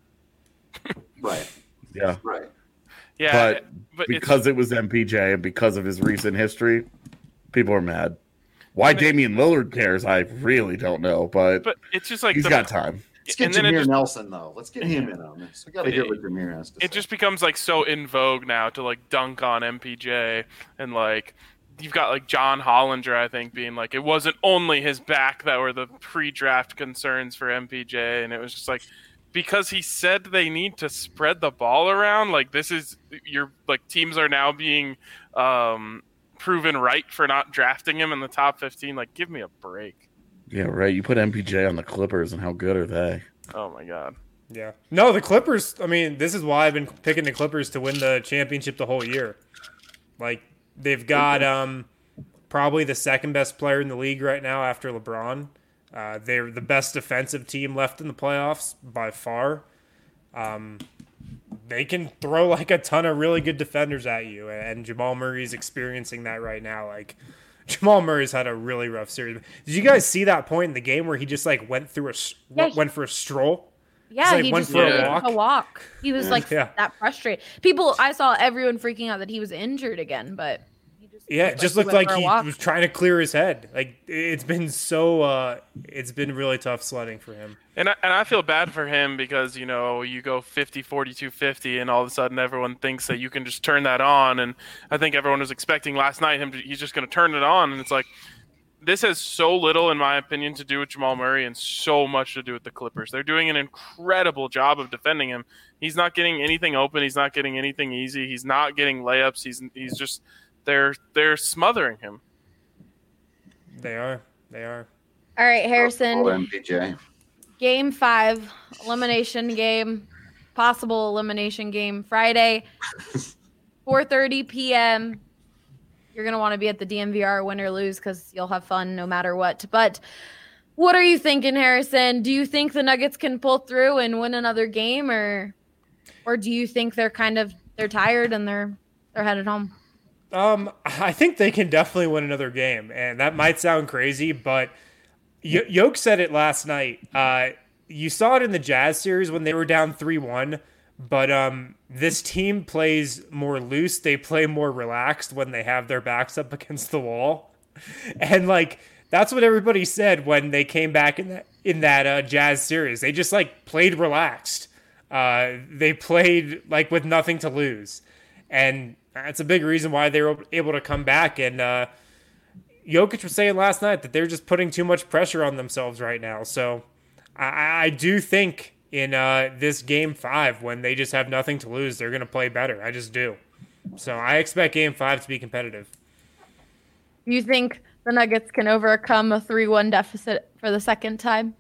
Right. yeah. Right. Yeah, But but it's- because it was M P J and because of his recent history, people are mad. Why And it- Damian Lillard cares, I really don't know, but, but it's just like he's the- got time. Let's get and then it Jameer just- Nelson, though. Let's get him in on this. We got to hear what Jameer has to say. it just becomes like so in vogue now to like dunk on M P J, and like you've got like John Hollinger, I think, being like it wasn't only his back that were the pre-draft concerns for M P J, and it was just like because he said they need to spread the ball around, like this is your like teams are now being um proven right for not drafting him in the top fifteen. Like give me a break. Yeah, right. You put M P J on the Clippers, and how good are they? Oh my god. Yeah. No, the Clippers, I mean, this is why I've been picking the Clippers to win the championship the whole year. Like, they've got um, probably the second best player in the league right now after LeBron. Uh, they're the best defensive team left in the playoffs by far. Um, they can throw like a ton of really good defenders at you, and Jamal Murray's experiencing that right now. Like, Jamal Murray's had a really rough series. Did you guys see that point in the game where he just like went through a Yeah, he- went for a stroll? Yeah, Just, like, he went just for a needed walk? to walk. He was like Yeah. that frustrated. People, I saw everyone freaking out that he was injured again, but he just Yeah, it just he looked went like for a he walk. was trying to clear his head. Like it's been so, uh, it's been really tough sledding for him. And I, and I feel bad for him because, you know, you go fifty, forty-two, fifty, and all of a sudden everyone thinks that you can just turn that on. And I think everyone was expecting last night him to, he's just going to turn it on. And it's like, this has so little, in my opinion, to do with Jamal Murray and so much to do with the Clippers. They're doing an incredible job of defending him. He's not getting anything open. He's not getting anything easy. He's not getting layups. He's he's just they're they're smothering him. They are, they are. All right, Harrison. Oh, M P J. Game five, elimination game, possible elimination game, Friday, four thirty p.m. You're going to want to be at the D M V R, win or lose, because you'll have fun no matter what. But what are you thinking, Harrison? Do you think the Nuggets can pull through and win another game, or or do you think they're kind of they're tired and they're they're headed home? Um, I think they can definitely win another game, and that might sound crazy, but y- Yoke said it last night. Uh, you saw it in the Jazz series when they were down three one, but um, this team plays more loose. They play more relaxed when they have their backs up against the wall, and like that's what everybody said when they came back in that in that uh, Jazz series. They just like played relaxed. Uh, they played like with nothing to lose, and that's a big reason why they were able to come back. And uh, Jokic was saying last night that they're just putting too much pressure on themselves right now. So I, I do think in uh, this game five, when they just have nothing to lose, they're going to play better. I just do. So I expect game five to be competitive. You think the Nuggets can overcome a three one deficit for the second time?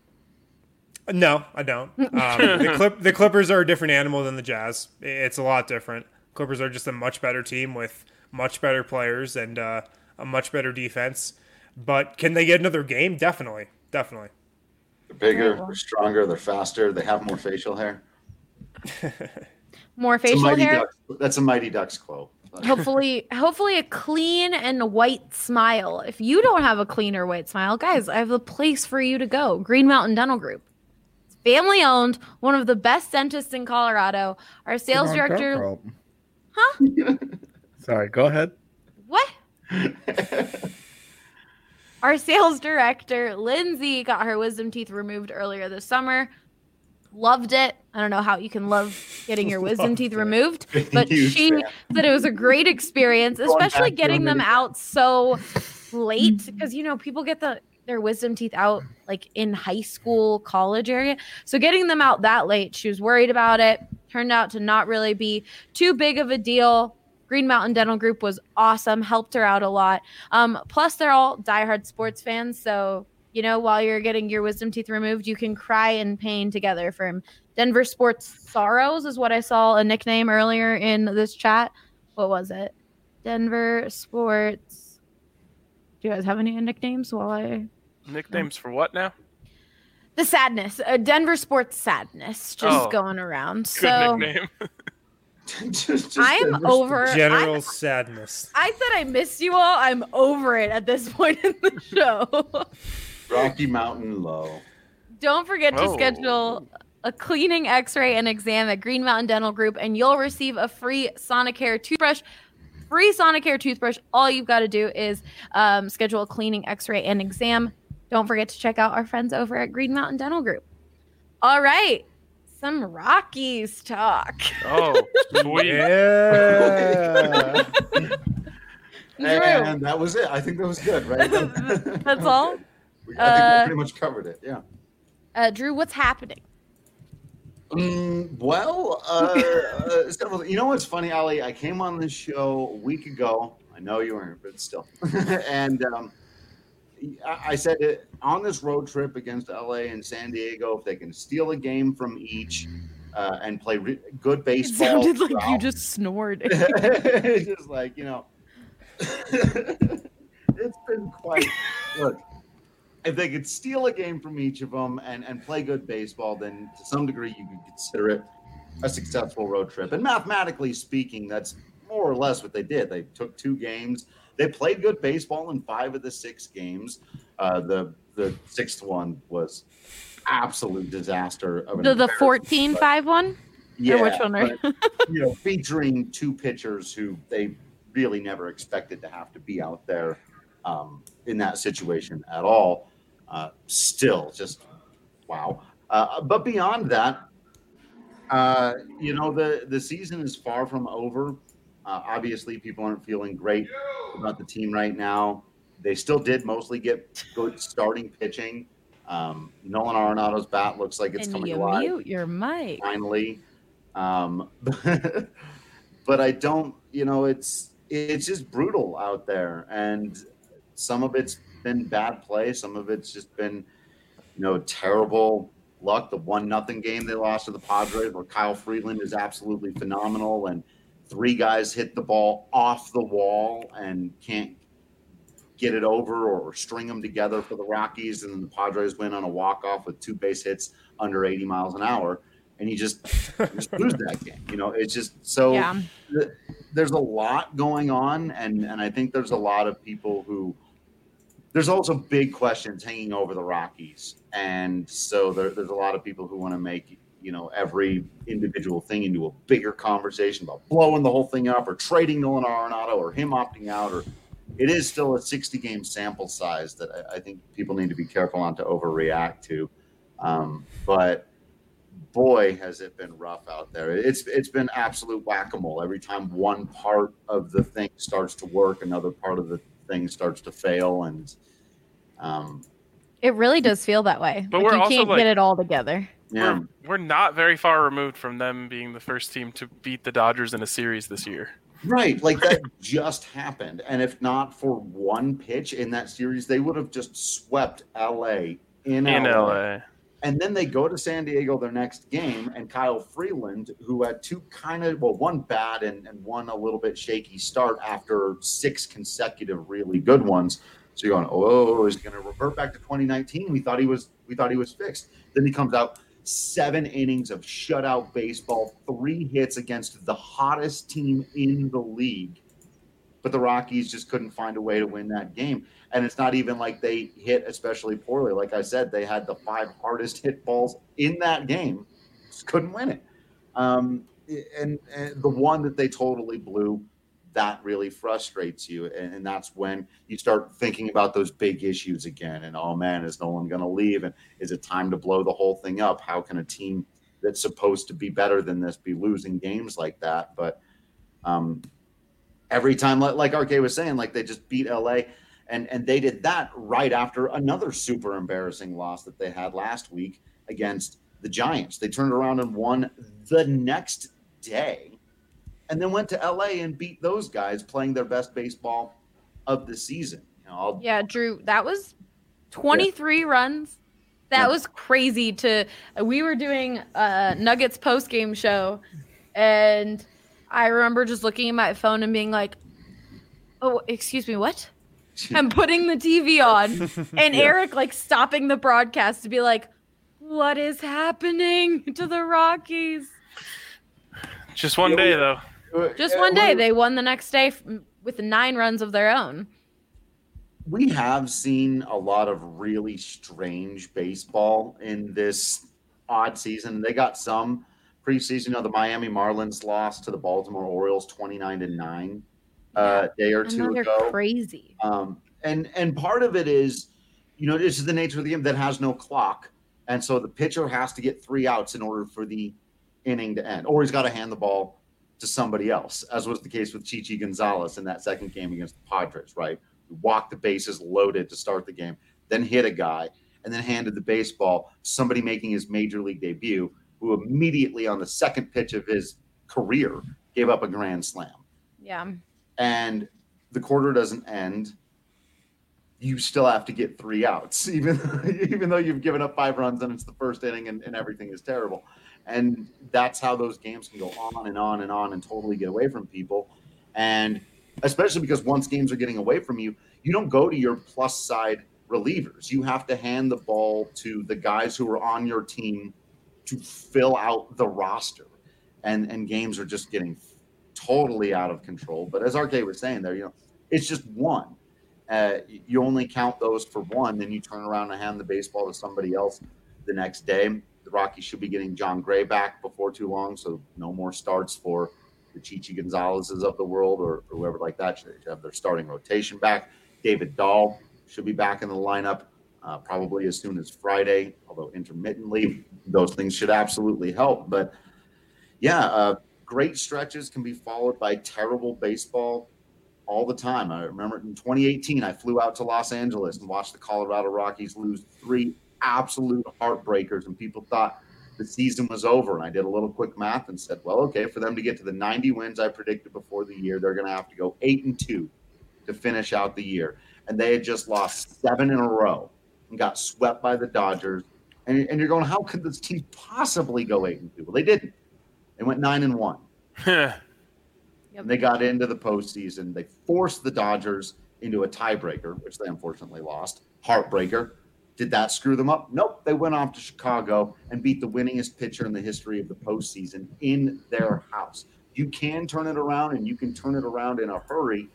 No, I don't. Um, the, Clip, the Clippers are a different animal than the Jazz. It's a lot different. Clippers are just a much better team with much better players and uh, a much better defense. But can they get another game? Definitely. Definitely. They're bigger, they're stronger, they're faster, they have more facial hair. More It's a facial Mighty hair. Ducks- that's a Mighty Ducks quote. hopefully hopefully a clean and white smile. If you don't have a clean or white smile, guys, I have a place for you to go. Green Mountain Dental Group. It's family owned, one of the best dentists in Colorado. Our sales Come on, director Carl. Huh? Sorry, go ahead. What? Our sales director, Lindsay, got her wisdom teeth removed earlier this summer. Loved it. I don't know how you can love getting your wisdom teeth removed, but Huge she fan. said it was a great experience, especially back getting to them them. out so late because, you know, people get the their wisdom teeth out like in high school, college area. So getting them out that late, she was worried about it. Turned out to not really be too big of a deal. Green Mountain Dental Group was awesome, helped her out a lot. Um, plus, they're all diehard sports fans, so you know, while you're getting your wisdom teeth removed, you can cry in pain together from Denver Sports Sorrows is what I saw a nickname earlier in this chat. What was it? Denver Sports. Do you guys have any nicknames while I... Nicknames for what now? The Sadness. Uh, Denver Sports Sadness just Oh. going around. Good So nickname. Just- just I'm Denver- over... General I'm- sadness. I said I miss you all. I'm over it at this point in the show. Rocky Mountain Low. Don't forget to Oh. schedule a cleaning, x-ray, and exam at Green Mountain Dental Group, and you'll receive a free Sonicare toothbrush. Free Sonicare toothbrush. All you've got to do is um, schedule a cleaning, x-ray, and exam. Don't forget to check out our friends over at Green Mountain Dental Group. All right. Some Rockies talk. Oh, sweet. Yeah. Drew, And that was it. I think that was good, right? that's all? I think Uh, we pretty much covered it. Yeah. Uh, Drew, what's happening? Mm, well, uh, uh, several. You know what's funny, Ali? I came on this show a week ago. I know you weren't, but still. and um, I, I said it, on this road trip against L A and San Diego, if they can steal a game from each uh, and play re- good It baseball. sounded like you throughout- just snored. it's just like, you know, it's been quite. Look, if they could steal a game from each of them and, and play good baseball, then to some degree you could consider it a successful road trip. And mathematically speaking, that's more or less what they did. They took two games. They played good baseball in five of the six games. Uh, the the sixth one was absolute disaster. Of an The, the embarrassment, fourteen but- five one? yeah, Or which one are but, you know, featuring two pitchers who they really never expected to have to be out there um, in that situation at all. Uh, still, just wow. Uh, but beyond that, uh, you know, the the season is far from over. Uh, obviously, people aren't feeling great about the team right now. They still did mostly get good starting pitching. Um, Nolan Arenado's bat looks like it's And coming you alive mute your mic. finally. Um, but I don't, you know, it's it's just brutal out there, and some of it's been bad play, some of it's just been, you know, terrible luck. The one nothing game they lost to the Padres, where Kyle Freeland is absolutely phenomenal, and three guys hit the ball off the wall and can't get it over or, or string them together for the Rockies, and then the Padres win on a walk off with two base hits under eighty miles an hour. And you just, you just lose that game. You know, it's just so Yeah. th- there's a lot going on. And, and I think there's a lot of people who, there's also big questions hanging over the Rockies. And so there, there's a lot of people who want to make, you know, every individual thing into a bigger conversation about blowing the whole thing up or trading Nolan Arenado or him opting out. Or it is still a sixty game sample size that I, I think people need to be careful not to overreact to. Um, but boy, has it been rough out there. It's it's been absolute whack-a-mole. Every time one part of the thing starts to work, another part of the thing starts to fail, and um, It really does feel that way. But Like, we're you also, can't like- get it all together. yeah, We're, we're not very far removed from them being the first team to beat the Dodgers in a series this year. right. Like that just happened, and if not for one pitch in that series, they would have just swept L A in, In L A. L A. And then they go to San Diego their next game, and Kyle Freeland, who had two kind of, well, one bad and, and one a little bit shaky start after six consecutive really good ones. So you're going, oh, is he going to revert back to twenty nineteen? We thought he was, we thought he was fixed. Then he comes out, seven innings of shutout baseball, three hits against the hottest team in the league. But the Rockies just couldn't find a way to win that game. And it's not even like they hit especially poorly. Like I said, they had the five hardest hit balls in that game. Just couldn't win it. Um, and, and the one that they totally blew, that really frustrates you. And, and that's when you start thinking about those big issues again. And, oh, man, is Nolan going to leave? And is it time to blow the whole thing up? How can a team that's supposed to be better than this be losing games like that? But um, every time, like R K was saying, like they just beat L A. And and they did that right after another super embarrassing loss that they had last week against the Giants. They turned around and won the next day and then went to L A and beat those guys playing their best baseball of the season. You know, I'll, yeah, Drew, that was twenty-three yeah. runs. That yeah. was crazy to – we were doing a Nuggets post-game show, and I remember just looking at my phone and being like, oh, excuse me, what? I'm putting the T V on, and yeah. Eric like stopping the broadcast to be like, what is happening to the Rockies? Just one day, though. Just one day. They won the next day with nine runs of their own. We have seen a lot of really strange baseball in this odd season. They got some preseason. You know, the Miami Marlins lost to the Baltimore Orioles twenty-nine to nine. Uh, day or two ago. Crazy. Um, and and part of it is, you know, this is the nature of the game that has no clock, and so the pitcher has to get three outs in order for the inning to end, or he's got to hand the ball to somebody else, as was the case with Chichi Gonzalez in that second game against the Padres. Right, we walked the bases loaded to start the game, then hit a guy, and then handed the baseball to somebody making his major league debut, who immediately on the second pitch of his career gave up a grand slam. Yeah. And the quarter doesn't end, you still have to get three outs, even, even though you've given up five runs and it's the first inning and, and everything is terrible. And that's how those games can go on and on and on and totally get away from people. And especially because once games are getting away from you, you don't go to your plus side relievers. You have to hand the ball to the guys who are on your team to fill out the roster. And, and games are just getting totally out of control. But as R K was saying there, you know, it's just one. Uh, you only count those for one, then you turn around and hand the baseball to somebody else the next day. The Rockies should be getting John Gray back before too long, so no more starts for the Chichi Gonzalez's of the world or, or whoever like that. Should have their starting rotation back. David Dahl should be back in the lineup uh, probably as soon as Friday, although intermittently. Those things should absolutely help. But, yeah, uh, great stretches can be followed by terrible baseball all the time. I remember in twenty eighteen, I flew out to Los Angeles and watched the Colorado Rockies lose three absolute heartbreakers, and people thought the season was over. And I did a little quick math and said, well, okay, for them to get to the ninety wins I predicted before the year, they're going to have to go eight and two to finish out the year. And they had just lost seven in a row and got swept by the Dodgers. And, and you're going, how could this team possibly go eight and two? Well, they didn't. They went nine and one. Yep. And they got into the postseason. They forced the Dodgers into a tiebreaker, which they unfortunately lost. Heartbreaker. Did that screw them up? Nope. They went off to Chicago and beat the winningest pitcher in the history of the postseason in their house. You can turn it around, and you can turn it around in a hurry,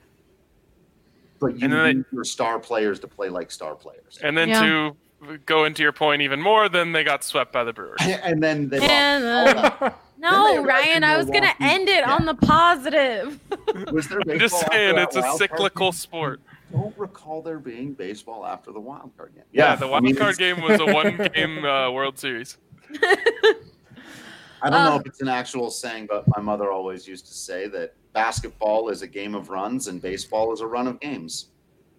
but you need they, your star players to play like star players. And then yeah. to go into your point even more, then they got swept by the Brewers. And then they and, lost. Uh, no, Ryan, I was going to end it yeah. on the positive. Was there I'm just saying, it's a cyclical sport. Don't recall there being baseball after the wild card game. Yeah, yeah the wild I mean, card game was a one-game uh, World Series. I don't uh, know if it's an actual saying, but my mother always used to say that basketball is a game of runs and baseball is a run of games.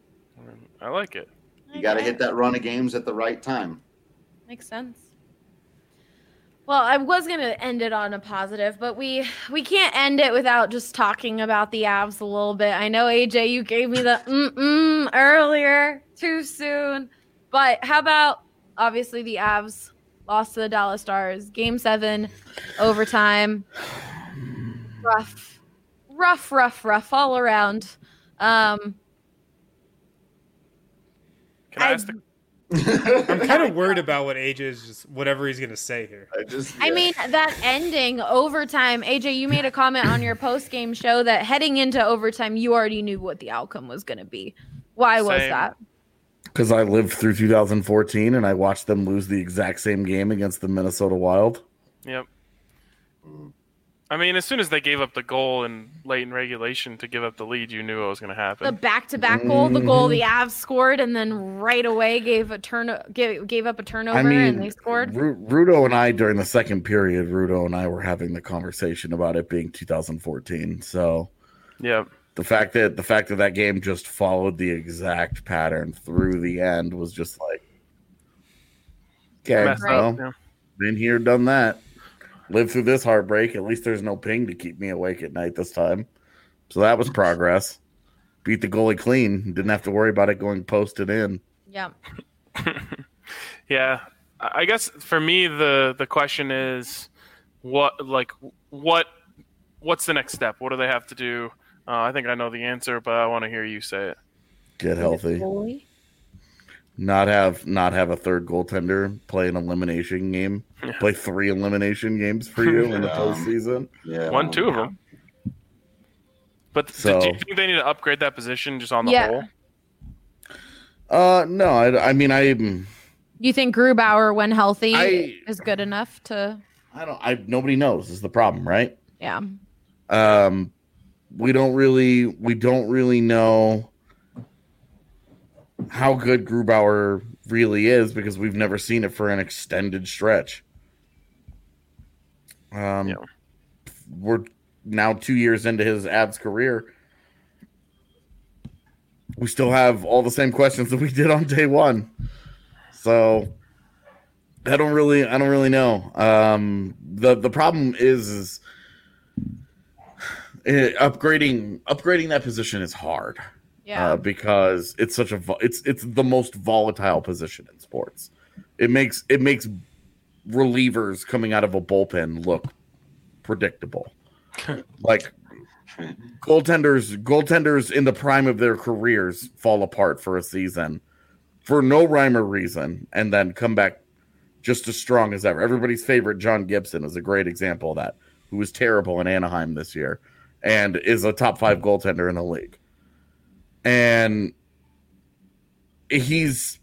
I like it. You got to hit that run of games at the right time. Makes sense. Well, I was going to end it on a positive, but we we can't end it without just talking about the Avs a little bit. I know, A J, you gave me the mm-mm earlier, too soon. But how about, obviously, the Avs lost to the Dallas Stars. Game seven, overtime. Rough, rough, rough, rough all around. Um, Can I, I ask the I'm kind of worried about what A J is just whatever he's gonna say here. I just, I yeah. mean, that ending overtime. A J, you made a comment on your post game show that heading into overtime, you already knew what the outcome was going to be. Why was Same. that? Because I lived through two thousand fourteen and I watched them lose the exact same game against the Minnesota Wild. Yep. I mean, as soon as they gave up the goal in late in regulation to give up the lead, you knew what was going to happen. The back-to-back goal, the goal the Avs scored, and then right away gave a turn, gave, gave up a turnover, I mean, and they scored. Ru- Rudo and I, during the second period, Rudo and I were having the conversation about it being two thousand fourteen. So, Yep. the fact that the fact that that game just followed the exact pattern through the end was just like, okay, Messed Right. well, up. Yeah. been here, done that. Lived through this heartbreak. At least there's no ping to keep me awake at night this time. So that was progress. Beat the goalie clean. Didn't have to worry about it going posted in. Yeah. Yeah. I guess for me, the, the question is what, like, what, what's the next step? What do they have to do? Uh, I think I know the answer, but I want to hear you say it. Get healthy. Goalie? Not have not have a third goaltender play an elimination game. Play three elimination games for you in the Yeah. postseason. Yeah. One, two of them. But So- do you think they need to upgrade that position just on the Yeah. whole? Uh, no, I, I mean, I, You think Grubauer, when healthy, I- is good enough to? I don't. I nobody knows is the problem, right? Yeah. Um, we don't really, we don't really know how good Grubauer really is because we've never seen it for an extended stretch. Um, Yeah. We're now two years into his Avs career. We still have all the same questions that we did on day one. So I don't really, I don't really know. Um, the the problem is, is eh, upgrading upgrading that position is hard. Yeah. Uh, because it's such a vo- it's it's the most volatile position in sports. It makes it makes relievers coming out of a bullpen look predictable. Like goaltenders goaltenders in the prime of their careers fall apart for a season for no rhyme or reason and then come back just as strong as ever. Everybody's favorite John Gibson is a great example of that, who was terrible in Anaheim this year and is a top five goaltender in the league. And he's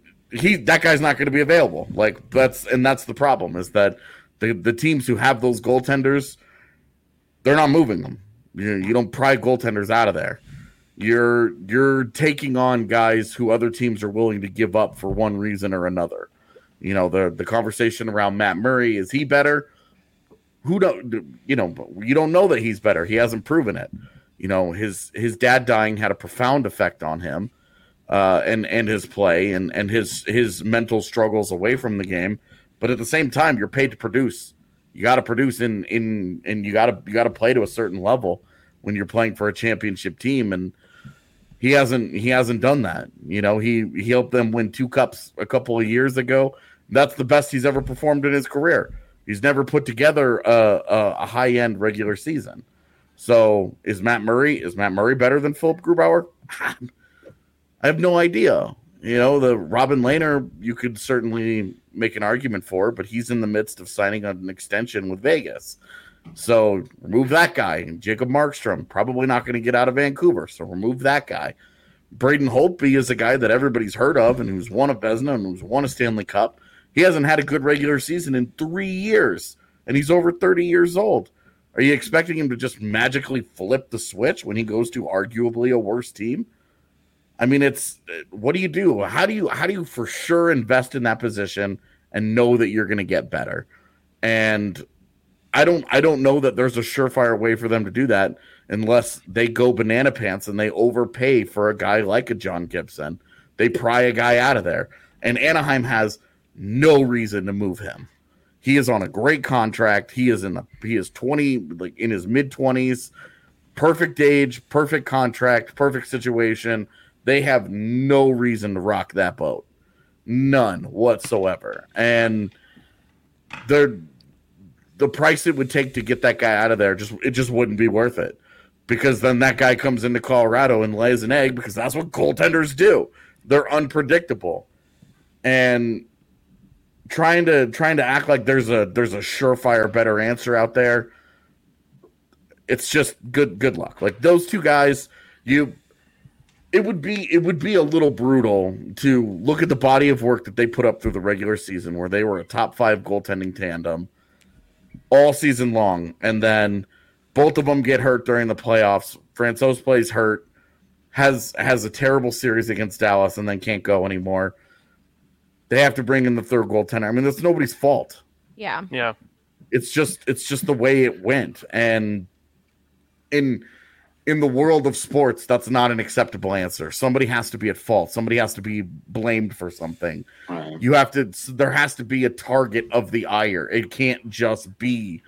he that guy's not going to be available. Like that's and that's the problem is that the the teams who have those goaltenders, they're not moving them. You you don't pry goaltenders out of there. You're you're taking on guys who other teams are willing to give up for one reason or another. You know the the conversation around Matt Murray, is he better? Who don't you know? You don't know that he's better. He hasn't proven it. You know, his his dad dying had a profound effect on him, uh, and and his play and and his his mental struggles away from the game. But at the same time, you're paid to produce. You got to produce in in and you got to you got to play to a certain level when you're playing for a championship team. And he hasn't he hasn't done that. You know, he he helped them win two cups a couple of years ago. That's the best he's ever performed in his career. He's never put together a, a, a high end regular season. So is Matt Murray, is Matt Murray better than Philip Grubauer? I have no idea. You know, the Robin Lehner, you could certainly make an argument for, but he's in the midst of signing an extension with Vegas. So remove that guy. Jacob Markstrom, probably not going to get out of Vancouver. So remove that guy. Braden Holtby is a guy that everybody's heard of and who's won a Vezina and who's won a Stanley Cup. He hasn't had a good regular season in three years, and he's over thirty years old. Are you expecting him to just magically flip the switch when he goes to arguably a worse team? I mean, it's what do you do? How do you how do you for sure invest in that position and know that you're going to get better? And I don't I don't know that there's a surefire way for them to do that unless they go banana pants and they overpay for a guy like a John Gibson. They pry a guy out of there, and Anaheim has no reason to move him. He is on a great contract. He is in the he is twenty, like in his mid twenties, perfect age, perfect contract, perfect situation. They have no reason to rock that boat, none whatsoever. And they're the price it would take to get that guy out of there just it just wouldn't be worth it. Because then that guy comes into Colorado and lays an egg because that's what goaltenders do. They're unpredictable. And trying to trying to act like there's a there's a surefire better answer out there, it's just good good luck. Like those two guys, you it would be it would be a little brutal to look at the body of work that they put up through the regular season where they were a top five goaltending tandem all season long, and then both of them get hurt during the playoffs. Francouz plays hurt, has has a terrible series against Dallas, and then can't go anymore. They have to bring in the third goaltender. I mean, that's nobody's fault. Yeah. Yeah. It's just it's just the way it went. And in in the world of sports, that's not an acceptable answer. Somebody has to be at fault. Somebody has to be blamed for something. Right. You have to there has to be a target of the ire. It can't just be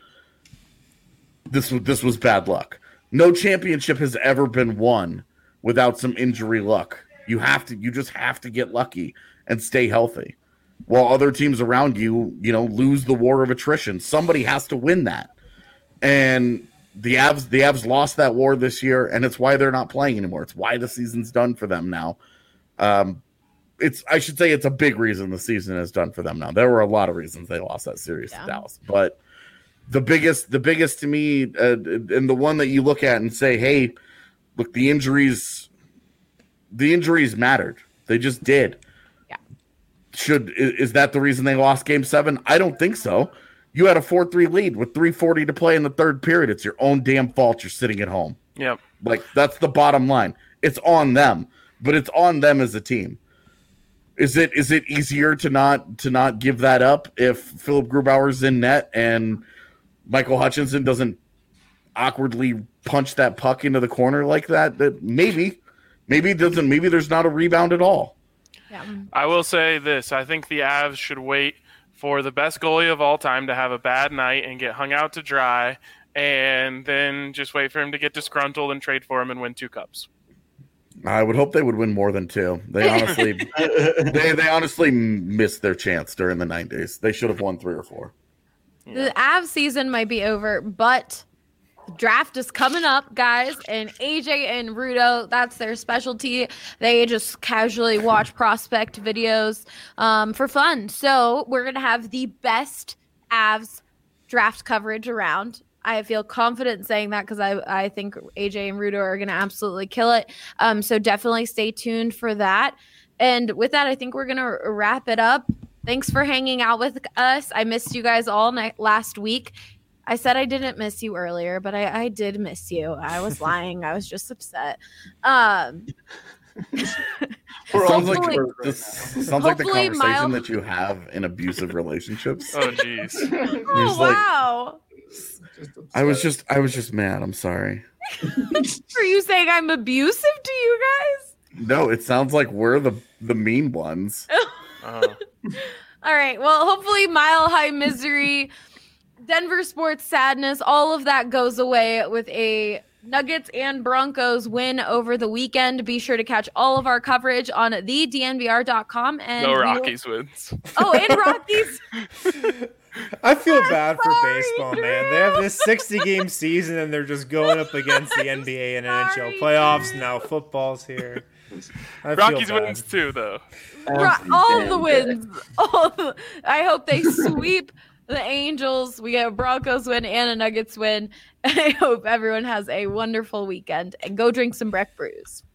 This was this was bad luck. No championship has ever been won without some injury luck. You have to you just have to get lucky and stay healthy. While other teams around you, you know, lose the war of attrition. Somebody has to win that. And the Avs the Avs lost that war this year, and it's why they're not playing anymore. It's why the season's done for them now. Um it's I should say it's a big reason the season is done for them now. There were a lot of reasons they lost that series Yeah. to Dallas, but The biggest, the biggest to me, uh, and the one that you look at and say, "Hey, look, the injuries, the injuries mattered. They just did." Yeah. Should is, is that the reason they lost Game Seven? I don't think so. You had a four three lead with three forty to play in the third period. It's your own damn fault. You're sitting at home. Yep. Like that's the bottom line. It's on them, but it's on them as a team. Is it is it easier to not to not give that up if Philip Grubauer's in net and Michael Hutchinson doesn't awkwardly punch that puck into the corner like that? That maybe, maybe it doesn't. Maybe there's not a rebound at all. Yeah. I will say this. I think the Avs should wait for the best goalie of all time to have a bad night and get hung out to dry, and then just wait for him to get disgruntled and trade for him and win two cups. I would hope they would win more than two. They honestly, they they honestly missed their chance during the nineties. They should have won three or four. The Avs season might be over, but the draft is coming up, guys. And A J and Rudo, that's their specialty. They just casually watch prospect videos um, for fun. So we're going to have the best Avs draft coverage around. I feel confident saying that because I, I think A J and Rudo are going to absolutely kill it. Um, so definitely stay tuned for that. And with that, I think we're going to wrap it up. Thanks for hanging out with us. I missed you guys all night last week. I said I didn't miss you earlier, but I, I did miss you. I was lying. I was just upset. Um, sounds like hopefully- this sounds like the hopefully conversation Miles- that you have in abusive relationships. Oh, jeez. oh, just like- wow. I was just I was just mad. I'm sorry. Are you saying I'm abusive to you guys? No, it sounds like we're the the mean ones. Uh, All right. Well, hopefully Mile High Misery, Denver sports sadness, all of that goes away with a Nuggets and Broncos win over the weekend. Be sure to catch all of our coverage on the D N V R dot com. And no we will- Rockies wins. Oh, and Rockies. I feel bad for sorry, baseball, Drew. man. They have this sixty-game season, and they're just going up against the N B A and N H L Sorry, playoffs. Drew. Now football's here. I feel Rockies bad. wins too, though. Ro- all the wins. All the, I hope they sweep the Angels. We get a Broncos win and a Nuggets win. I hope everyone has a wonderful weekend and go drink some Breck Brews.